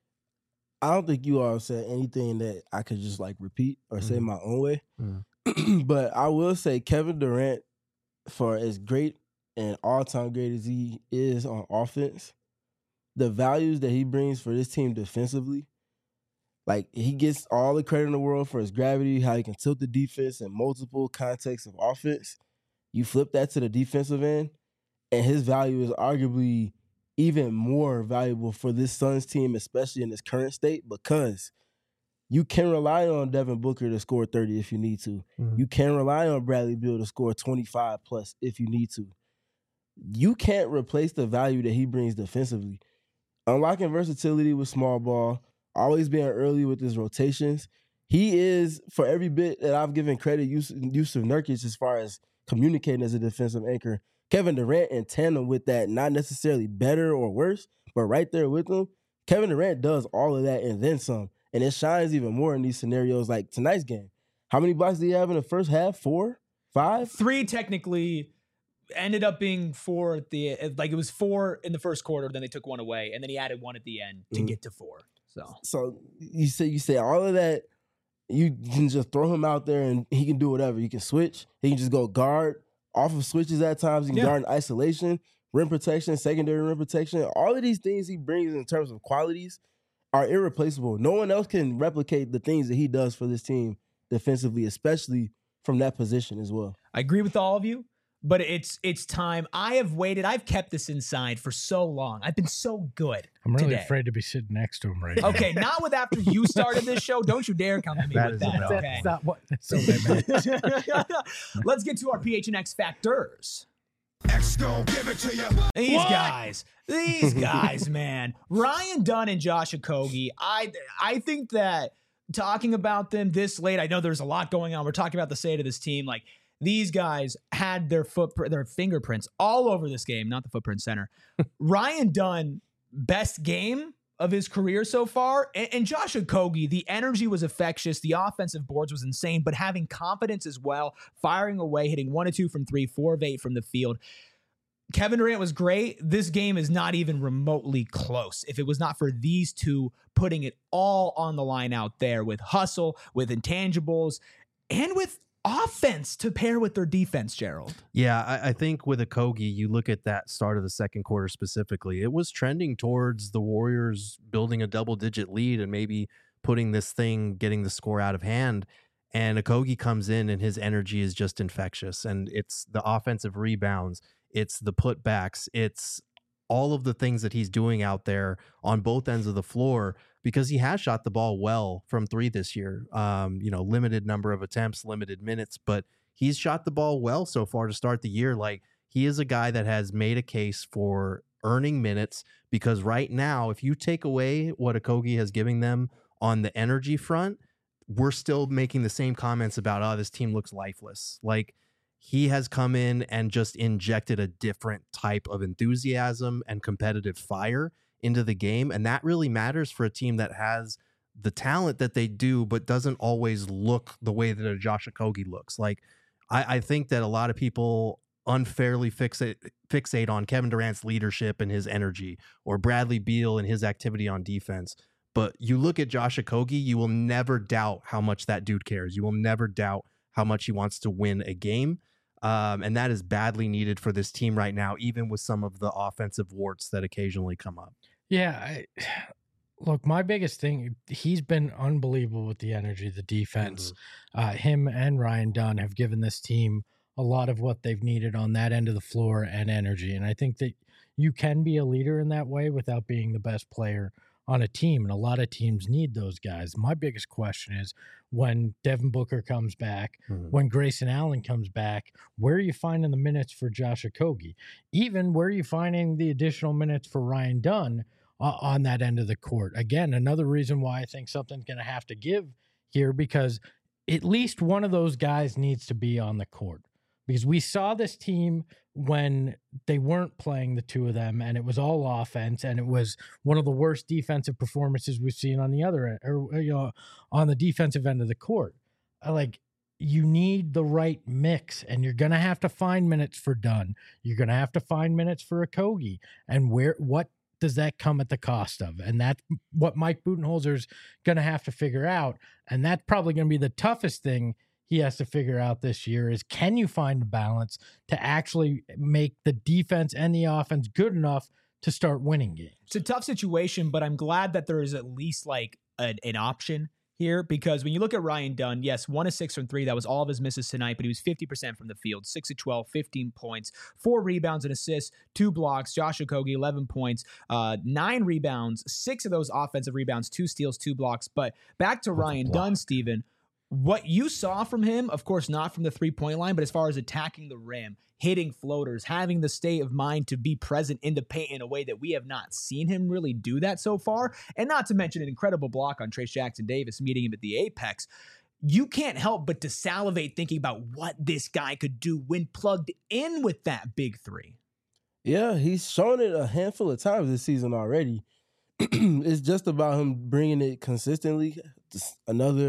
I don't think you all said anything that I could just like repeat or say my own way. But I will say Kevin Durant, for as great and all-time great as he is on offense, the values that he brings for this team defensively, like he gets all the credit in the world for his gravity, how he can tilt the defense in multiple contexts of offense. You flip that to the defensive end, and his value is arguably even more valuable for this Suns team, especially in its current state, because you can rely on Devin Booker to score 30 if you need to. You can rely on Bradley Beal to score 25 plus if you need to. You can't replace the value that he brings defensively. Unlocking versatility with small ball, always being early with his rotations. He is, for every bit that I've given credit, Yusuf Nurkic as far as communicating as a defensive anchor, Kevin Durant in tandem with that, not necessarily better or worse, but right there with him, Kevin Durant does all of that and then some. And it shines even more in these scenarios like tonight's game. How many blocks did he have in the first half? 4? 5? 3 technically, ended up being 4 at the like it was 4 in the first quarter, then they took 1 away, and then he added 1 at the end to get to 4. So you say all of that, you can just throw him out there and he can do whatever. He can switch. He can just go guard off of switches at times. He can guard in isolation, rim protection, secondary rim protection. All of these things he brings in terms of qualities are irreplaceable. No one else can replicate the things that he does for this team defensively, especially from that position as well. I agree with all of you, but it's time. I have waited. I've kept this inside for so long. I've been so good. I'm really today. afraid to be sitting next to him right now. Okay, not with after you started this show. Don't you dare come at me That with is a that. no. Okay. That's not what I meant. Let's get to our PHNX factors. X gon' give it to you. These guys, man. Ryan Dunn and Josh Okogie. I think that talking about them this late, I know there's a lot going on. We're talking about the state of this team. Like, these guys had their fingerprints all over this game, not the footprint center. Ryan Dunn, best game of his career so far. And Josh Okogie, the energy was infectious. The offensive boards was insane, but having confidence as well, firing away, hitting 1 of 2 from 3, 4 of 8 from the field. Kevin Durant was great. This game is not even remotely close. If it was not for these two putting it all on the line out there with hustle, with intangibles, and with offense to pair with their defense, Gerald. Yeah, I think with Okogie, you look at that start of the second quarter specifically, it was trending towards the Warriors building a double-digit lead and maybe putting this thing, getting the score out of hand. And Okogie comes in and his energy is just infectious. And it's the offensive rebounds, it's the putbacks, it's all of the things that he's doing out there on both ends of the floor, because he has shot the ball well from 3 this year. Limited number of attempts, limited minutes, but he's shot the ball well so far to start the year. Like, he is a guy that has made a case for earning minutes, because right now, if you take away what Okogie has given them on the energy front, we're still making the same comments about, oh, this team looks lifeless. Like, he has come in and just injected a different type of enthusiasm and competitive fire into the game. And that really matters for a team that has the talent that they do, but doesn't always look the way that a Josh Okogie looks. Like, I think that a lot of people unfairly fixate on Kevin Durant's leadership and his energy, or Bradley Beal and his activity on defense. But you look at Josh Okogie, you will never doubt how much that dude cares. You will never doubt how much he wants to win a game. And that is badly needed for this team right now, even with some of the offensive warts that occasionally come up. Yeah. Look, my biggest thing, he's been unbelievable with the energy, the defense. Him and Ryan Dunn have given this team a lot of what they've needed on that end of the floor and energy. And I think that you can be a leader in that way without being the best player on a team, and a lot of teams need those guys. My biggest question is, when Devin Booker comes back, when Grayson Allen comes back, where are you finding the minutes for Josh Okogie? Even where are you finding the additional minutes for Ryan Dunn on that end of the court? Again, another reason why I think something's going to have to give here, because at least one of those guys needs to be on the court. Because we saw this team when they weren't playing the two of them, and it was all offense, and it was one of the worst defensive performances we've seen on the other end, or on the defensive end of the court. You need the right mix, and you're going to have to find minutes for Dunn. You're going to have to find minutes for Okogie, and what does that come at the cost of? And that's what Mike Budenholzer's going to have to figure out, and that's probably going to be the toughest thing he has to figure out this year, is, can you find a balance to actually make the defense and the offense good enough to start winning games? It's a tough situation, but I'm glad that there is at least like an option here, because when you look at Ryan Dunn, yes, 1 of 6 from 3, that was all of his misses tonight, but he was 50% from the field, 6 of 12, 15 points, 4 rebounds and assists, 2 blocks. Josh Okogie, 11 points, 9 rebounds, 6 of those offensive rebounds, 2 steals, 2 blocks. But back to Ryan Dunn, Steven, what you saw from him, of course, not from the 3-point line, but as far as attacking the rim, hitting floaters, having the state of mind to be present in the paint in a way that we have not seen him really do that so far, and not to mention an incredible block on Trayce Jackson-Davis, meeting him at the apex, you can't help but to salivate thinking about what this guy could do when plugged in with that big 3. Yeah, he's shown it a handful of times this season already. It's just about him bringing it consistently. Just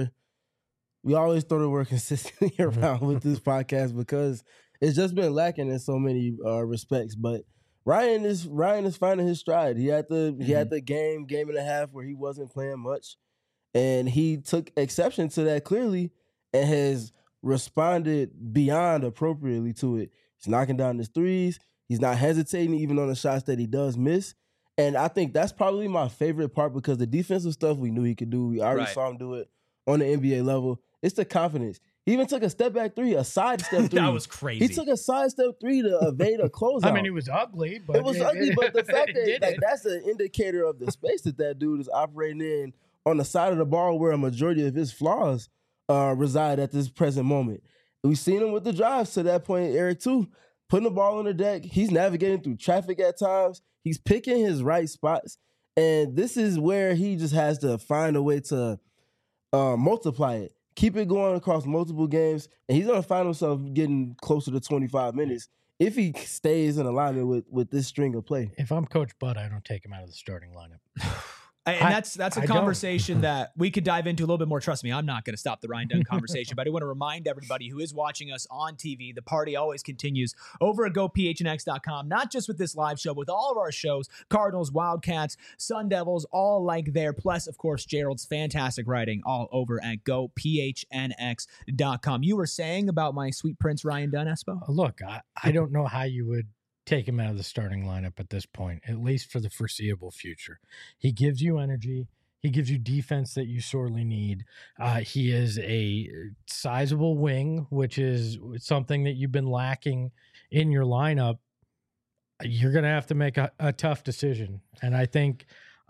we always throw the word consistently around with this podcast, because it's just been lacking in so many respects. But Ryan is finding his stride. He had the game and a half where he wasn't playing much, and he took exception to that clearly and has responded beyond appropriately to it. He's knocking down his threes. He's not hesitating even on the shots that he does miss. And I think that's probably my favorite part, because the defensive stuff we knew he could do. We already saw him do it on the NBA level. It's the confidence. He even took a step back 3, a side step 3. That was crazy. He took a side step 3 to evade a closeout. I mean, it was ugly, but but the fact that that's an indicator of the space that dude is operating in on the side of the ball, where a majority of his flaws reside at this present moment. We've seen him with the drives to that point, Eric, too. Putting the ball on the deck. He's navigating through traffic at times. He's picking his right spots. And this is where he just has to find a way to multiply it. Keep it going across multiple games, and he's going to find himself getting closer to 25 minutes if he stays in alignment with this string of play. If I'm Coach Bud, I don't take him out of the starting lineup. And that's a conversation that we could dive into a little bit more. Trust me, I'm not going to stop the Ryan Dunn conversation, but I want to remind everybody who is watching us on TV, the party always continues over at GoPHNX.com, not just with this live show, but with all of our shows, Cardinals, Wildcats, Sun Devils, all like there. Plus, of course, Gerald's fantastic writing all over at GoPHNX.com. You were saying about my sweet prince, Ryan Dunn, Espo? Look, I don't know how you would take him out of the starting lineup at this point, at least for the foreseeable future. He gives you energy. He gives you defense that you sorely need. He is a sizable wing, which is something that you've been lacking in your lineup. You're going to have to make a tough decision. And I think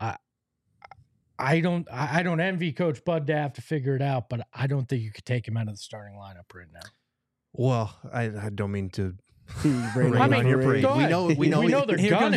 I don't envy Coach Bud to have to figure it out, but I don't think you could take him out of the starting lineup right now. Well, I don't mean to Rain on your parade. go ahead. We know they're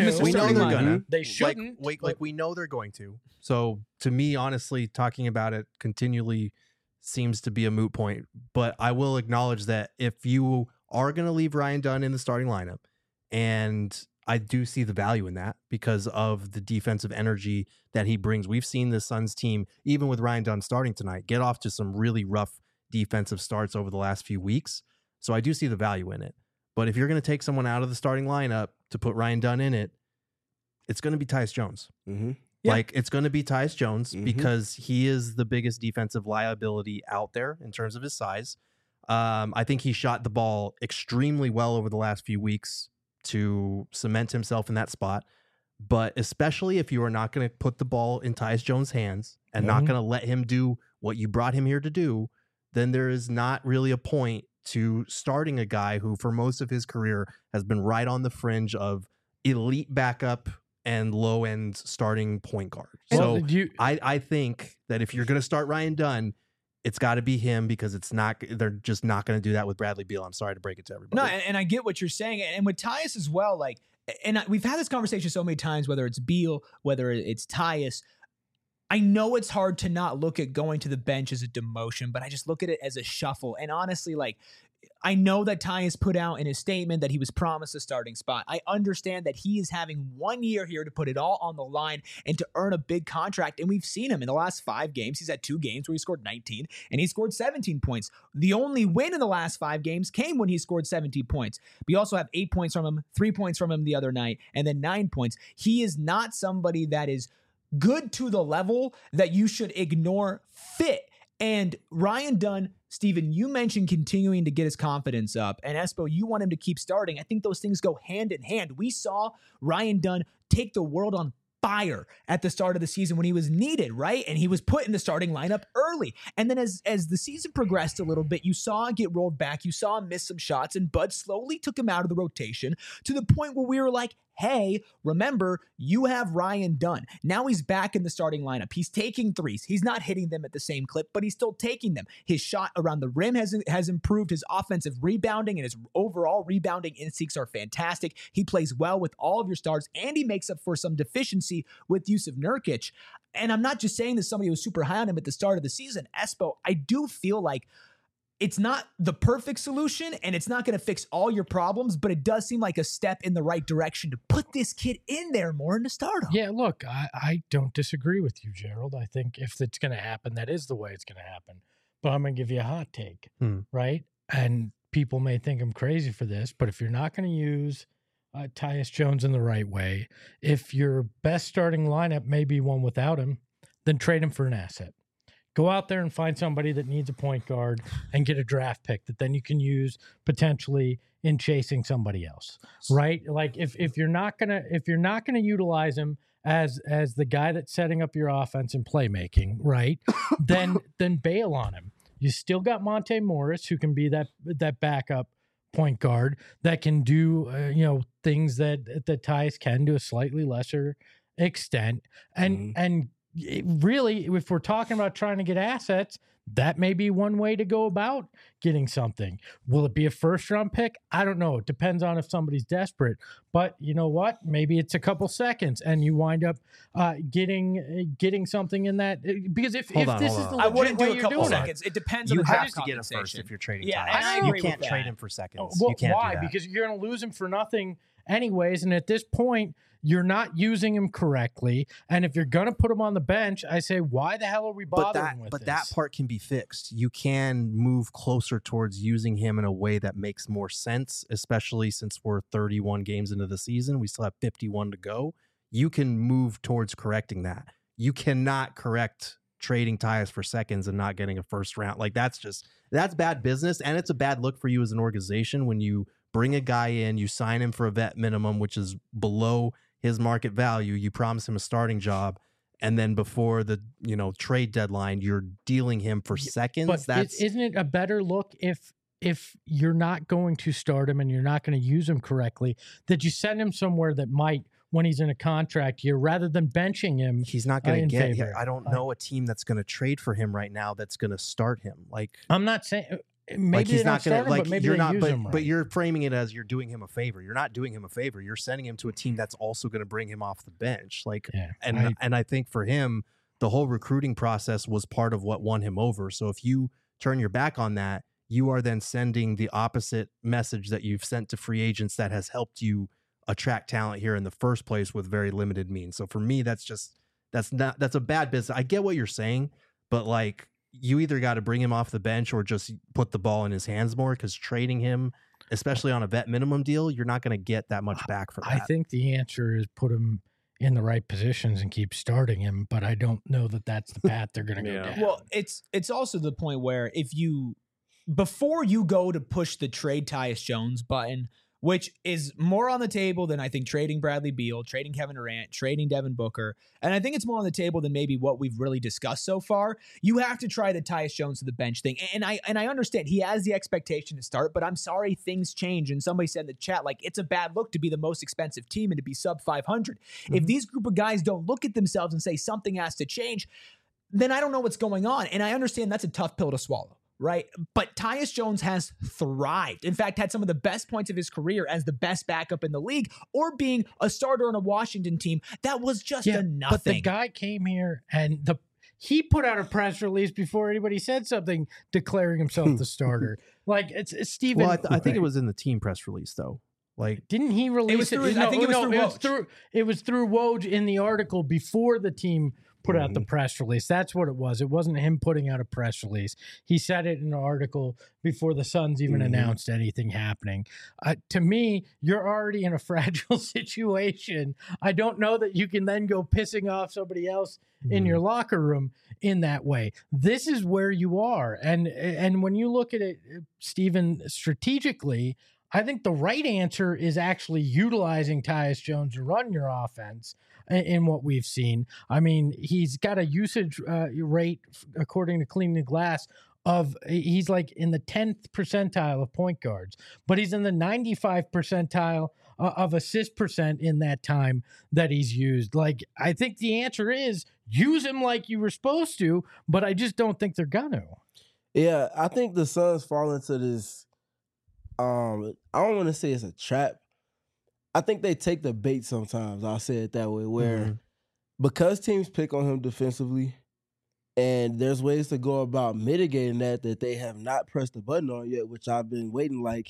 gonna. They shouldn't. We know they're going to. So to me, honestly, talking about it continually seems to be a moot point. But I will acknowledge that if you are going to leave Ryan Dunn in the starting lineup, and I do see the value in that because of the defensive energy that he brings. We've seen the Suns team, even with Ryan Dunn starting tonight, get off to some really rough defensive starts over the last few weeks. So I do see the value in it. But if you're going to take someone out of the starting lineup to put Ryan Dunn in it, it's going to be Tyus Jones. Mm-hmm. Yeah. Like, it's going to be Tyus Jones because he is the biggest defensive liability out there in terms of his size. I think he shot the ball extremely well over the last few weeks to cement himself in that spot. But especially if you are not going to put the ball in Tyus Jones' hands and not going to let him do what you brought him here to do, then there is not really a point to starting a guy who for most of his career has been right on the fringe of elite backup and low end starting point guard. So I think that if you're going to start Ryan Dunn, it's got to be him because they're just not going to do that with Bradley Beal. I'm sorry to break it to everybody. No, and I get what you're saying. And with Tyus as well, like, and we've had this conversation so many times, whether it's Beal, whether it's Tyus. I know it's hard to not look at going to the bench as a demotion, but I just look at it as a shuffle. And honestly, like, I know that Tyus put out in his statement that he was promised a starting spot. I understand that he is having 1 year here to put it all on the line and to earn a big contract. And we've seen him in the last 5 games. He's had 2 games where he scored 19 and he scored 17 points. The only win in the last 5 games came when he scored 17 points. We also have 8 points from him, 3 points from him the other night, and then 9 points. He is not somebody that is good to the level that you should ignore fit. And Ryan Dunn, Steven, you mentioned continuing to get his confidence up. And Espo, you want him to keep starting. I think those things go hand in hand. We saw Ryan Dunn take the world on fire at the start of the season when he was needed, right? And he was put in the starting lineup early. And then as the season progressed a little bit, you saw him get rolled back. You saw him miss some shots, and Bud slowly took him out of the rotation to the point where we were like, hey, remember, you have Ryan Dunn. Now he's back in the starting lineup. He's taking threes. He's not hitting them at the same clip, but he's still taking them. His shot around the rim has improved. His offensive rebounding and his overall rebounding instincts are fantastic. He plays well with all of your stars, and he makes up for some deficiency with Jusuf Nurkic. And I'm not just saying this, somebody who was super high on him at the start of the season. Espo, I do feel like it's not the perfect solution and it's not going to fix all your problems, but it does seem like a step in the right direction to put this kid in there more in the stardom. Yeah, look, I don't disagree with you, Gerald. I think if it's going to happen, that is the way it's going to happen. But I'm going to give you a hot take, right? And people may think I'm crazy for this, but if you're not going to use Tyus Jones in the right way, if your best starting lineup may be one without him, then trade him for an asset. Go out there and find somebody that needs a point guard and get a draft pick that then you can use potentially in chasing somebody else, right? Like if you're not gonna utilize him as the guy that's setting up your offense and playmaking, right? then bail on him. You still got Monte Morris, who can be that backup point guard that can do things that Tyus can to a slightly lesser extent, and really, if we're talking about trying to get assets, that may be one way to go about getting something. Will it be a first-round pick? I don't know. It depends on if somebody's desperate. But you know what? Maybe it's a couple seconds, and you wind up getting something in that. Because if this is the I wouldn't do way a couple you're doing seconds. It depends on You the have draft to get a first compensation. if you're trading Yeah, Tyus. and I You agree can't with trade that. him for seconds. Well, You can't why? do that. Because you're going to lose him for nothing anyways. And at this point, you're not using him correctly. And if you're going to put him on the bench, I say, why the hell are we bothering with this? But that part can be fixed. You can move closer towards using him in a way that makes more sense, especially since we're 31 games into the season. We still have 51 to go. You can move towards correcting that. You cannot correct trading Tyus for seconds and not getting a first round. Like, that's bad business. And it's a bad look for you as an organization when you bring a guy in, you sign him for a vet minimum, which is below his market value. You promise him a starting job, and then before the trade deadline, you're dealing him for seconds. But isn't it a better look if you're not going to start him and you're not going to use him correctly, that you send him somewhere that might, when he's in a contract year, rather than benching him? He's not going to get. I don't know a team that's going to trade for him right now that's going to start him. Like, I'm not saying. Maybe like he's not going to, like, but maybe you're they not, use him right. But you're framing it as you're doing him a favor. You're not doing him a favor. You're sending him to a team that's also going to bring him off the bench. Like, and I think for him, the whole recruiting process was part of what won him over. So if you turn your back on that, you are then sending the opposite message that you've sent to free agents that has helped you attract talent here in the first place with very limited means. So for me, that's a bad business. I get what you're saying, but like, you either got to bring him off the bench or just put the ball in his hands more, because trading him, especially on a vet minimum deal, you're not going to get that much back for that. I think the answer is put him in the right positions and keep starting him, but I don't know that that's the path they're going to go down. Well, it's also the point where before you go to push the trade Tyus Jones button, which is more on the table than I think trading Bradley Beal, trading Kevin Durant, trading Devin Booker. And I think it's more on the table than maybe what we've really discussed so far. You have to try the Tyus Jones to the bench thing. And I understand he has the expectation to start, but I'm sorry, things change. And somebody said in the chat, like, it's a bad look to be the most expensive team and to be sub 500. Mm-hmm. If these group of guys don't look at themselves and say something has to change, then I don't know what's going on. And I understand that's a tough pill to swallow. Right. But Tyus Jones has thrived. In fact, had some of the best points of his career as the best backup in the league, or being a starter on a Washington team that was just a nothing. But the guy came here and he put out a press release before anybody said something declaring himself the starter. Like, it's Steven. Well, I think it was in the team press release, though. Like, didn't he release it? I think it was through Woj. It was through Woj in the article before the team put out the press release. That's what it was. It wasn't him putting out a press release. He said it in an article before the Suns even announced anything happening. To me, you're already in a fragile situation. I don't know that you can then go pissing off somebody else in your locker room in that way. This is where you are. And when you look at it, Steven, strategically, I think the right answer is actually utilizing Tyus Jones to run your offense in what we've seen. I mean, he's got a usage rate, according to Cleaning the Glass, he's like in the 10th percentile of point guards, but he's in the 95 percentile of assist percent in that time that he's used. Like, I think the answer is use him like you were supposed to, but I just don't think they're gonna. Yeah, I think the Suns fall into this. I don't want to say it's a trap. I think they take the bait sometimes. I'll say it that way, where because teams pick on him defensively, and there's ways to go about mitigating that they have not pressed the button on yet, which I've been waiting. Like,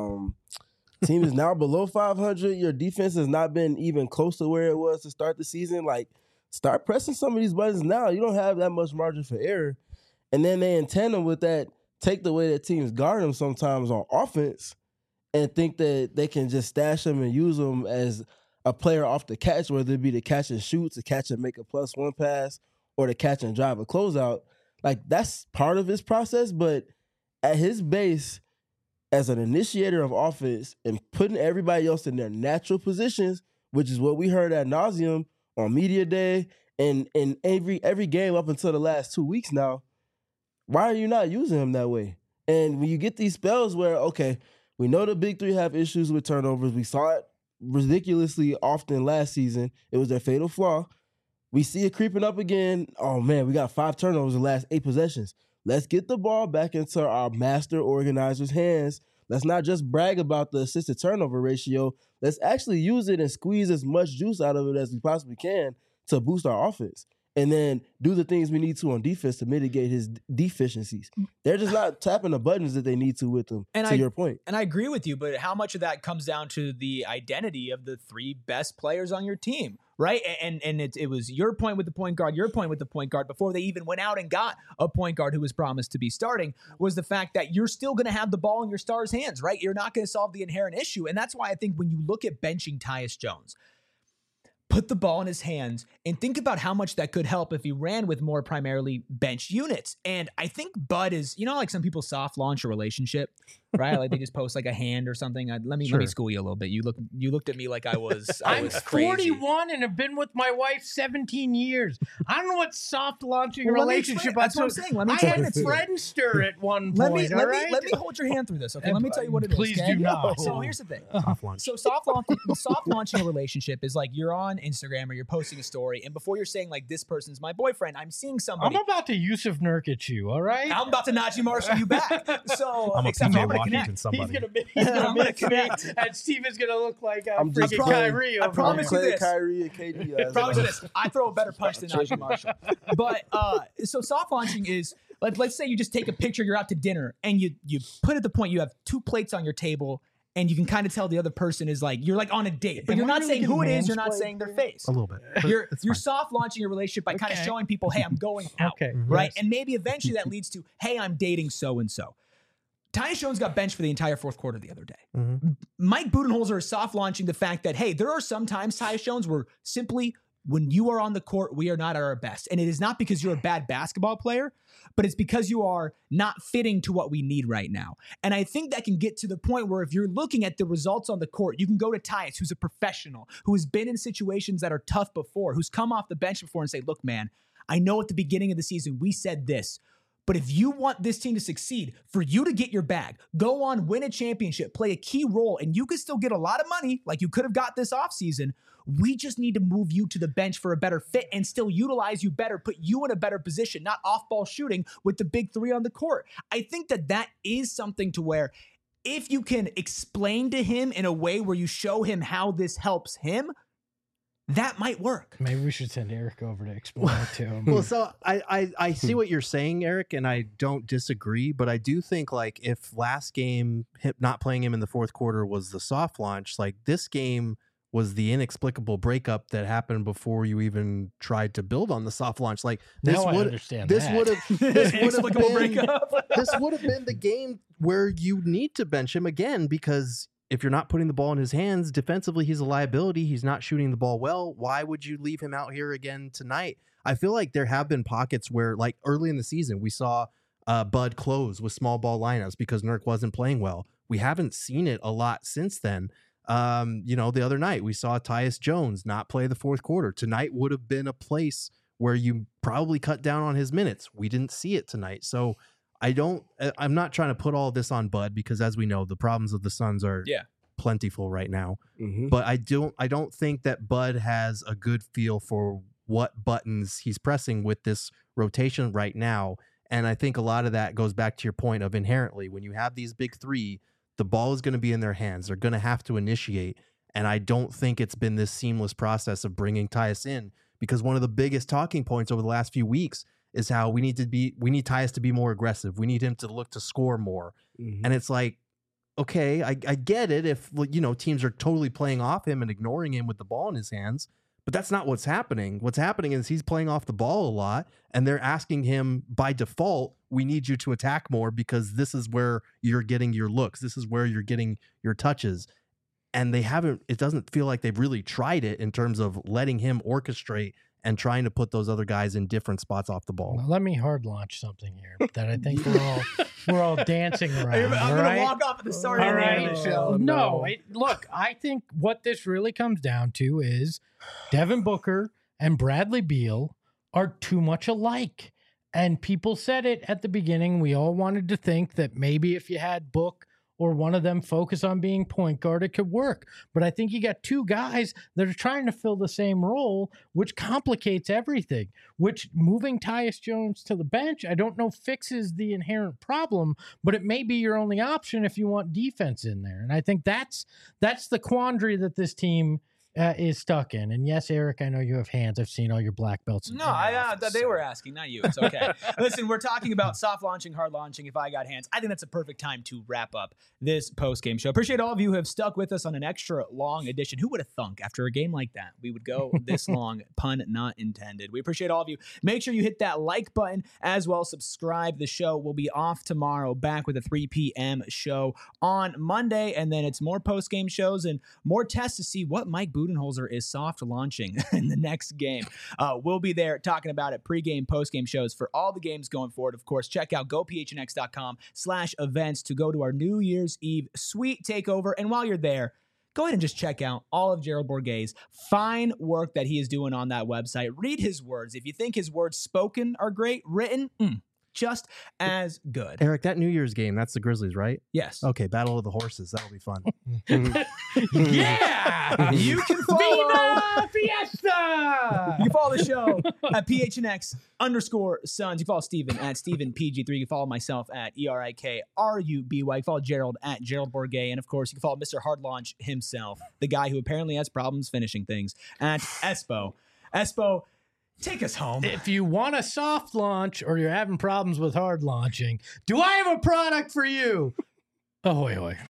team is now below 500. Your defense has not been even close to where it was to start the season. Like, start pressing some of these buttons now. You don't have that much margin for error. And then they, in tandem with that, take the way that teams guard them sometimes on offense and think that they can just stash them and use them as a player off the catch, whether it be to catch and shoot, to catch and make a +1 pass, or to catch and drive a closeout. Like, that's part of his process, but at his base, as an initiator of offense and putting everybody else in their natural positions, which is what we heard ad nauseum on media day and in every game up until the last 2 weeks now, why are you not using him that way? And when you get these spells where, okay, we know the big three have issues with turnovers. We saw it ridiculously often last season. It was their fatal flaw. We see it creeping up again. Oh, man, we got 5 turnovers in the last 8 possessions. Let's get the ball back into our master organizer's hands. Let's not just brag about the assist to turnover ratio. Let's actually use it and squeeze as much juice out of it as we possibly can to boost our offense. and then do the things we need to on defense to mitigate his deficiencies. They're just not tapping the buttons that they need to with him, to your point. And I agree with you, but how much of that comes down to the identity of the three best players on your team, right? And it was your point with the point guard, your point with the point guard before they even went out and got a point guard who was promised to be starting, was the fact that you're still going to have the ball in your star's hands, right? You're not going to solve the inherent issue. And that's why I think when you look at benching Tyus Jones, put the ball in his hands and think about how much that could help if he ran with more primarily bench units. And I think Bud is, like some people soft launch a relationship, right? Like they just post like a hand or something. Let me school you a little bit. You looked at me like I was I'm crazy. 41 and have been with my wife 17 years. I don't know what soft launching a relationship. That's what I'm saying. Let me I had Friendster at one point. Let me hold your hand through this, okay? Let me tell you what it is. Please okay? do not. So here's the thing. Soft launch. So soft launching a relationship is like you're on Instagram or you're posting a story, and before you're saying like this person's my boyfriend, I'm seeing somebody. I'm about to Yusuf Nurkic you, all right? I'm about to Najee Marshall you back. So I'm a except PJ I'm gonna Washington connect. somebody. He's gonna connect, and Steven's gonna look like freaking Kyrie. I promise you this. Kyrie and KD. Promise you this. I throw a better punch than Najee Marshall. But so soft launching is like, let's say you just take a picture, you're out to dinner, and you put at the point you have 2 plates on your table, and you can kind of tell the other person is like, you're like on a date, but you're not saying who it is, you're not saying their face. A little bit. but You're it's fine. soft launching your relationship by kind of showing people, hey, I'm going out. Okay. Right? Yes. And maybe eventually that leads to, hey, I'm dating so-and-so. Tyus Jones got benched for the entire fourth quarter the other day. Mhm. Mike Budenholzer is soft launching the fact that, hey, there are some times, Tyus Jones, where simply when you are on the court, we are not at our best. And it is not because you're a bad basketball player, but it's because you are not fitting to what we need right now. And I think that can get to the point where if you're looking at the results on the court, you can go to Tyus, who's a professional, who has been in situations that are tough before, who's come off the bench before and say, look, man, I know at the beginning of the season we said this, but if you want this team to succeed, for you to get your bag, go on, win a championship, play a key role, and you could still get a lot of money like you could have got this offseason, we just need to move you to the bench for a better fit and still utilize you better, put you in a better position, not off-ball shooting with the big three on the court. I think that is something to where if you can explain to him in a way where you show him how this helps him, that might work. Maybe we should send Eric over to explain it to him. Well, so I see what you're saying, Eric, and I don't disagree, but I do think like if last game not playing him in the fourth quarter was the soft launch, like this game was the inexplicable breakup that happened before you even tried to build on the soft launch. Like this Now I would understand this that. would have Inexplicable breakup. this would have been the game where you need to bench him again, because if you're not putting the ball in his hands defensively, he's a liability. He's not shooting the ball well. Why would you leave him out here again tonight? I feel like there have been pockets where, like early in the season, we saw Bud close with small ball lineups because Nurk wasn't playing well. We haven't seen it a lot since then. The other night we saw Tyus Jones not play the fourth quarter. Tonight would have been a place where you probably cut down on his minutes. We didn't see it tonight. So I'm not trying to put all this on Bud, because as we know, the problems of the Suns are plentiful right now. Mm-hmm. But I don't think that Bud has a good feel for what buttons he's pressing with this rotation right now. And I think a lot of that goes back to your point of inherently, when you have these big three, the ball is going to be in their hands. They're going to have to initiate. And I don't think it's been this seamless process of bringing Tyus in, because one of the biggest talking points over the last few weeks is how we need Tyus to be more aggressive. We need him to look to score more. Mm-hmm. And it's like, okay, I get it if, teams are totally playing off him and ignoring him with the ball in his hands, but that's not what's happening. What's happening is he's playing off the ball a lot, and they're asking him by default, we need you to attack more because this is where you're getting your looks. This is where you're getting your touches. And it doesn't feel like they've really tried it in terms of letting him orchestrate and trying to put those other guys in different spots off the ball. Well, let me hard launch something here that I think we're all dancing around. I'm going to walk off at the start of the show. No, look, I think what this really comes down to is Devin Booker and Bradley Beal are too much alike. And people said it at the beginning. We all wanted to think that maybe if you had Book or one of them focus on being point guard, it could work. But I think you got two guys that are trying to fill the same role, which complicates everything, which moving Tyus Jones to the bench, I don't know fixes the inherent problem, but it may be your only option if you want defense in there. And I think that's the quandary that this team is stuck in. And yes, Eric, I know you have hands. I've seen all your black belts. No, I thought they were asking, not you. It's okay. Listen, we're talking about soft launching, hard launching. If I got hands, I think that's a perfect time to wrap up this post-game show. Appreciate all of you who have stuck with us on an extra long edition. Who would have thunk after a game like that we would go this long? Pun not intended. We appreciate all of you. Make sure you hit that like button as well. Subscribe. The show will be off tomorrow, back with a 3 p.m. show on Monday, and then it's more post-game shows and more tests to see what Mike Budenholzer is soft launching in the next game. We'll be there talking about it, pregame, postgame shows for all the games going forward. Of course, check out gophnx.com/events to go to our New Year's Eve sweet takeover. And while you're there, go ahead and just check out all of Gerald Bourguet's fine work that he is doing on that website. Read his words. If you think his words spoken are great, written, just as good. Eric, that New Year's game, that's the Grizzlies, right? Yes. Okay, Battle of the Horses. That'll be fun. Yeah! You can follow Viva Fiesta! You can follow the show at PHNX_Suns. You can follow Steven at StevenPG3. You can follow myself at ERIKRUBY. You can follow Gerald at Gerald Bourguet. And of course, you can follow Mr. Hard Launch himself, the guy who apparently has problems finishing things, at Espo. Espo, take us home. If you want a soft launch or you're having problems with hard launching, do I have a product for you? Ahoy, hoy.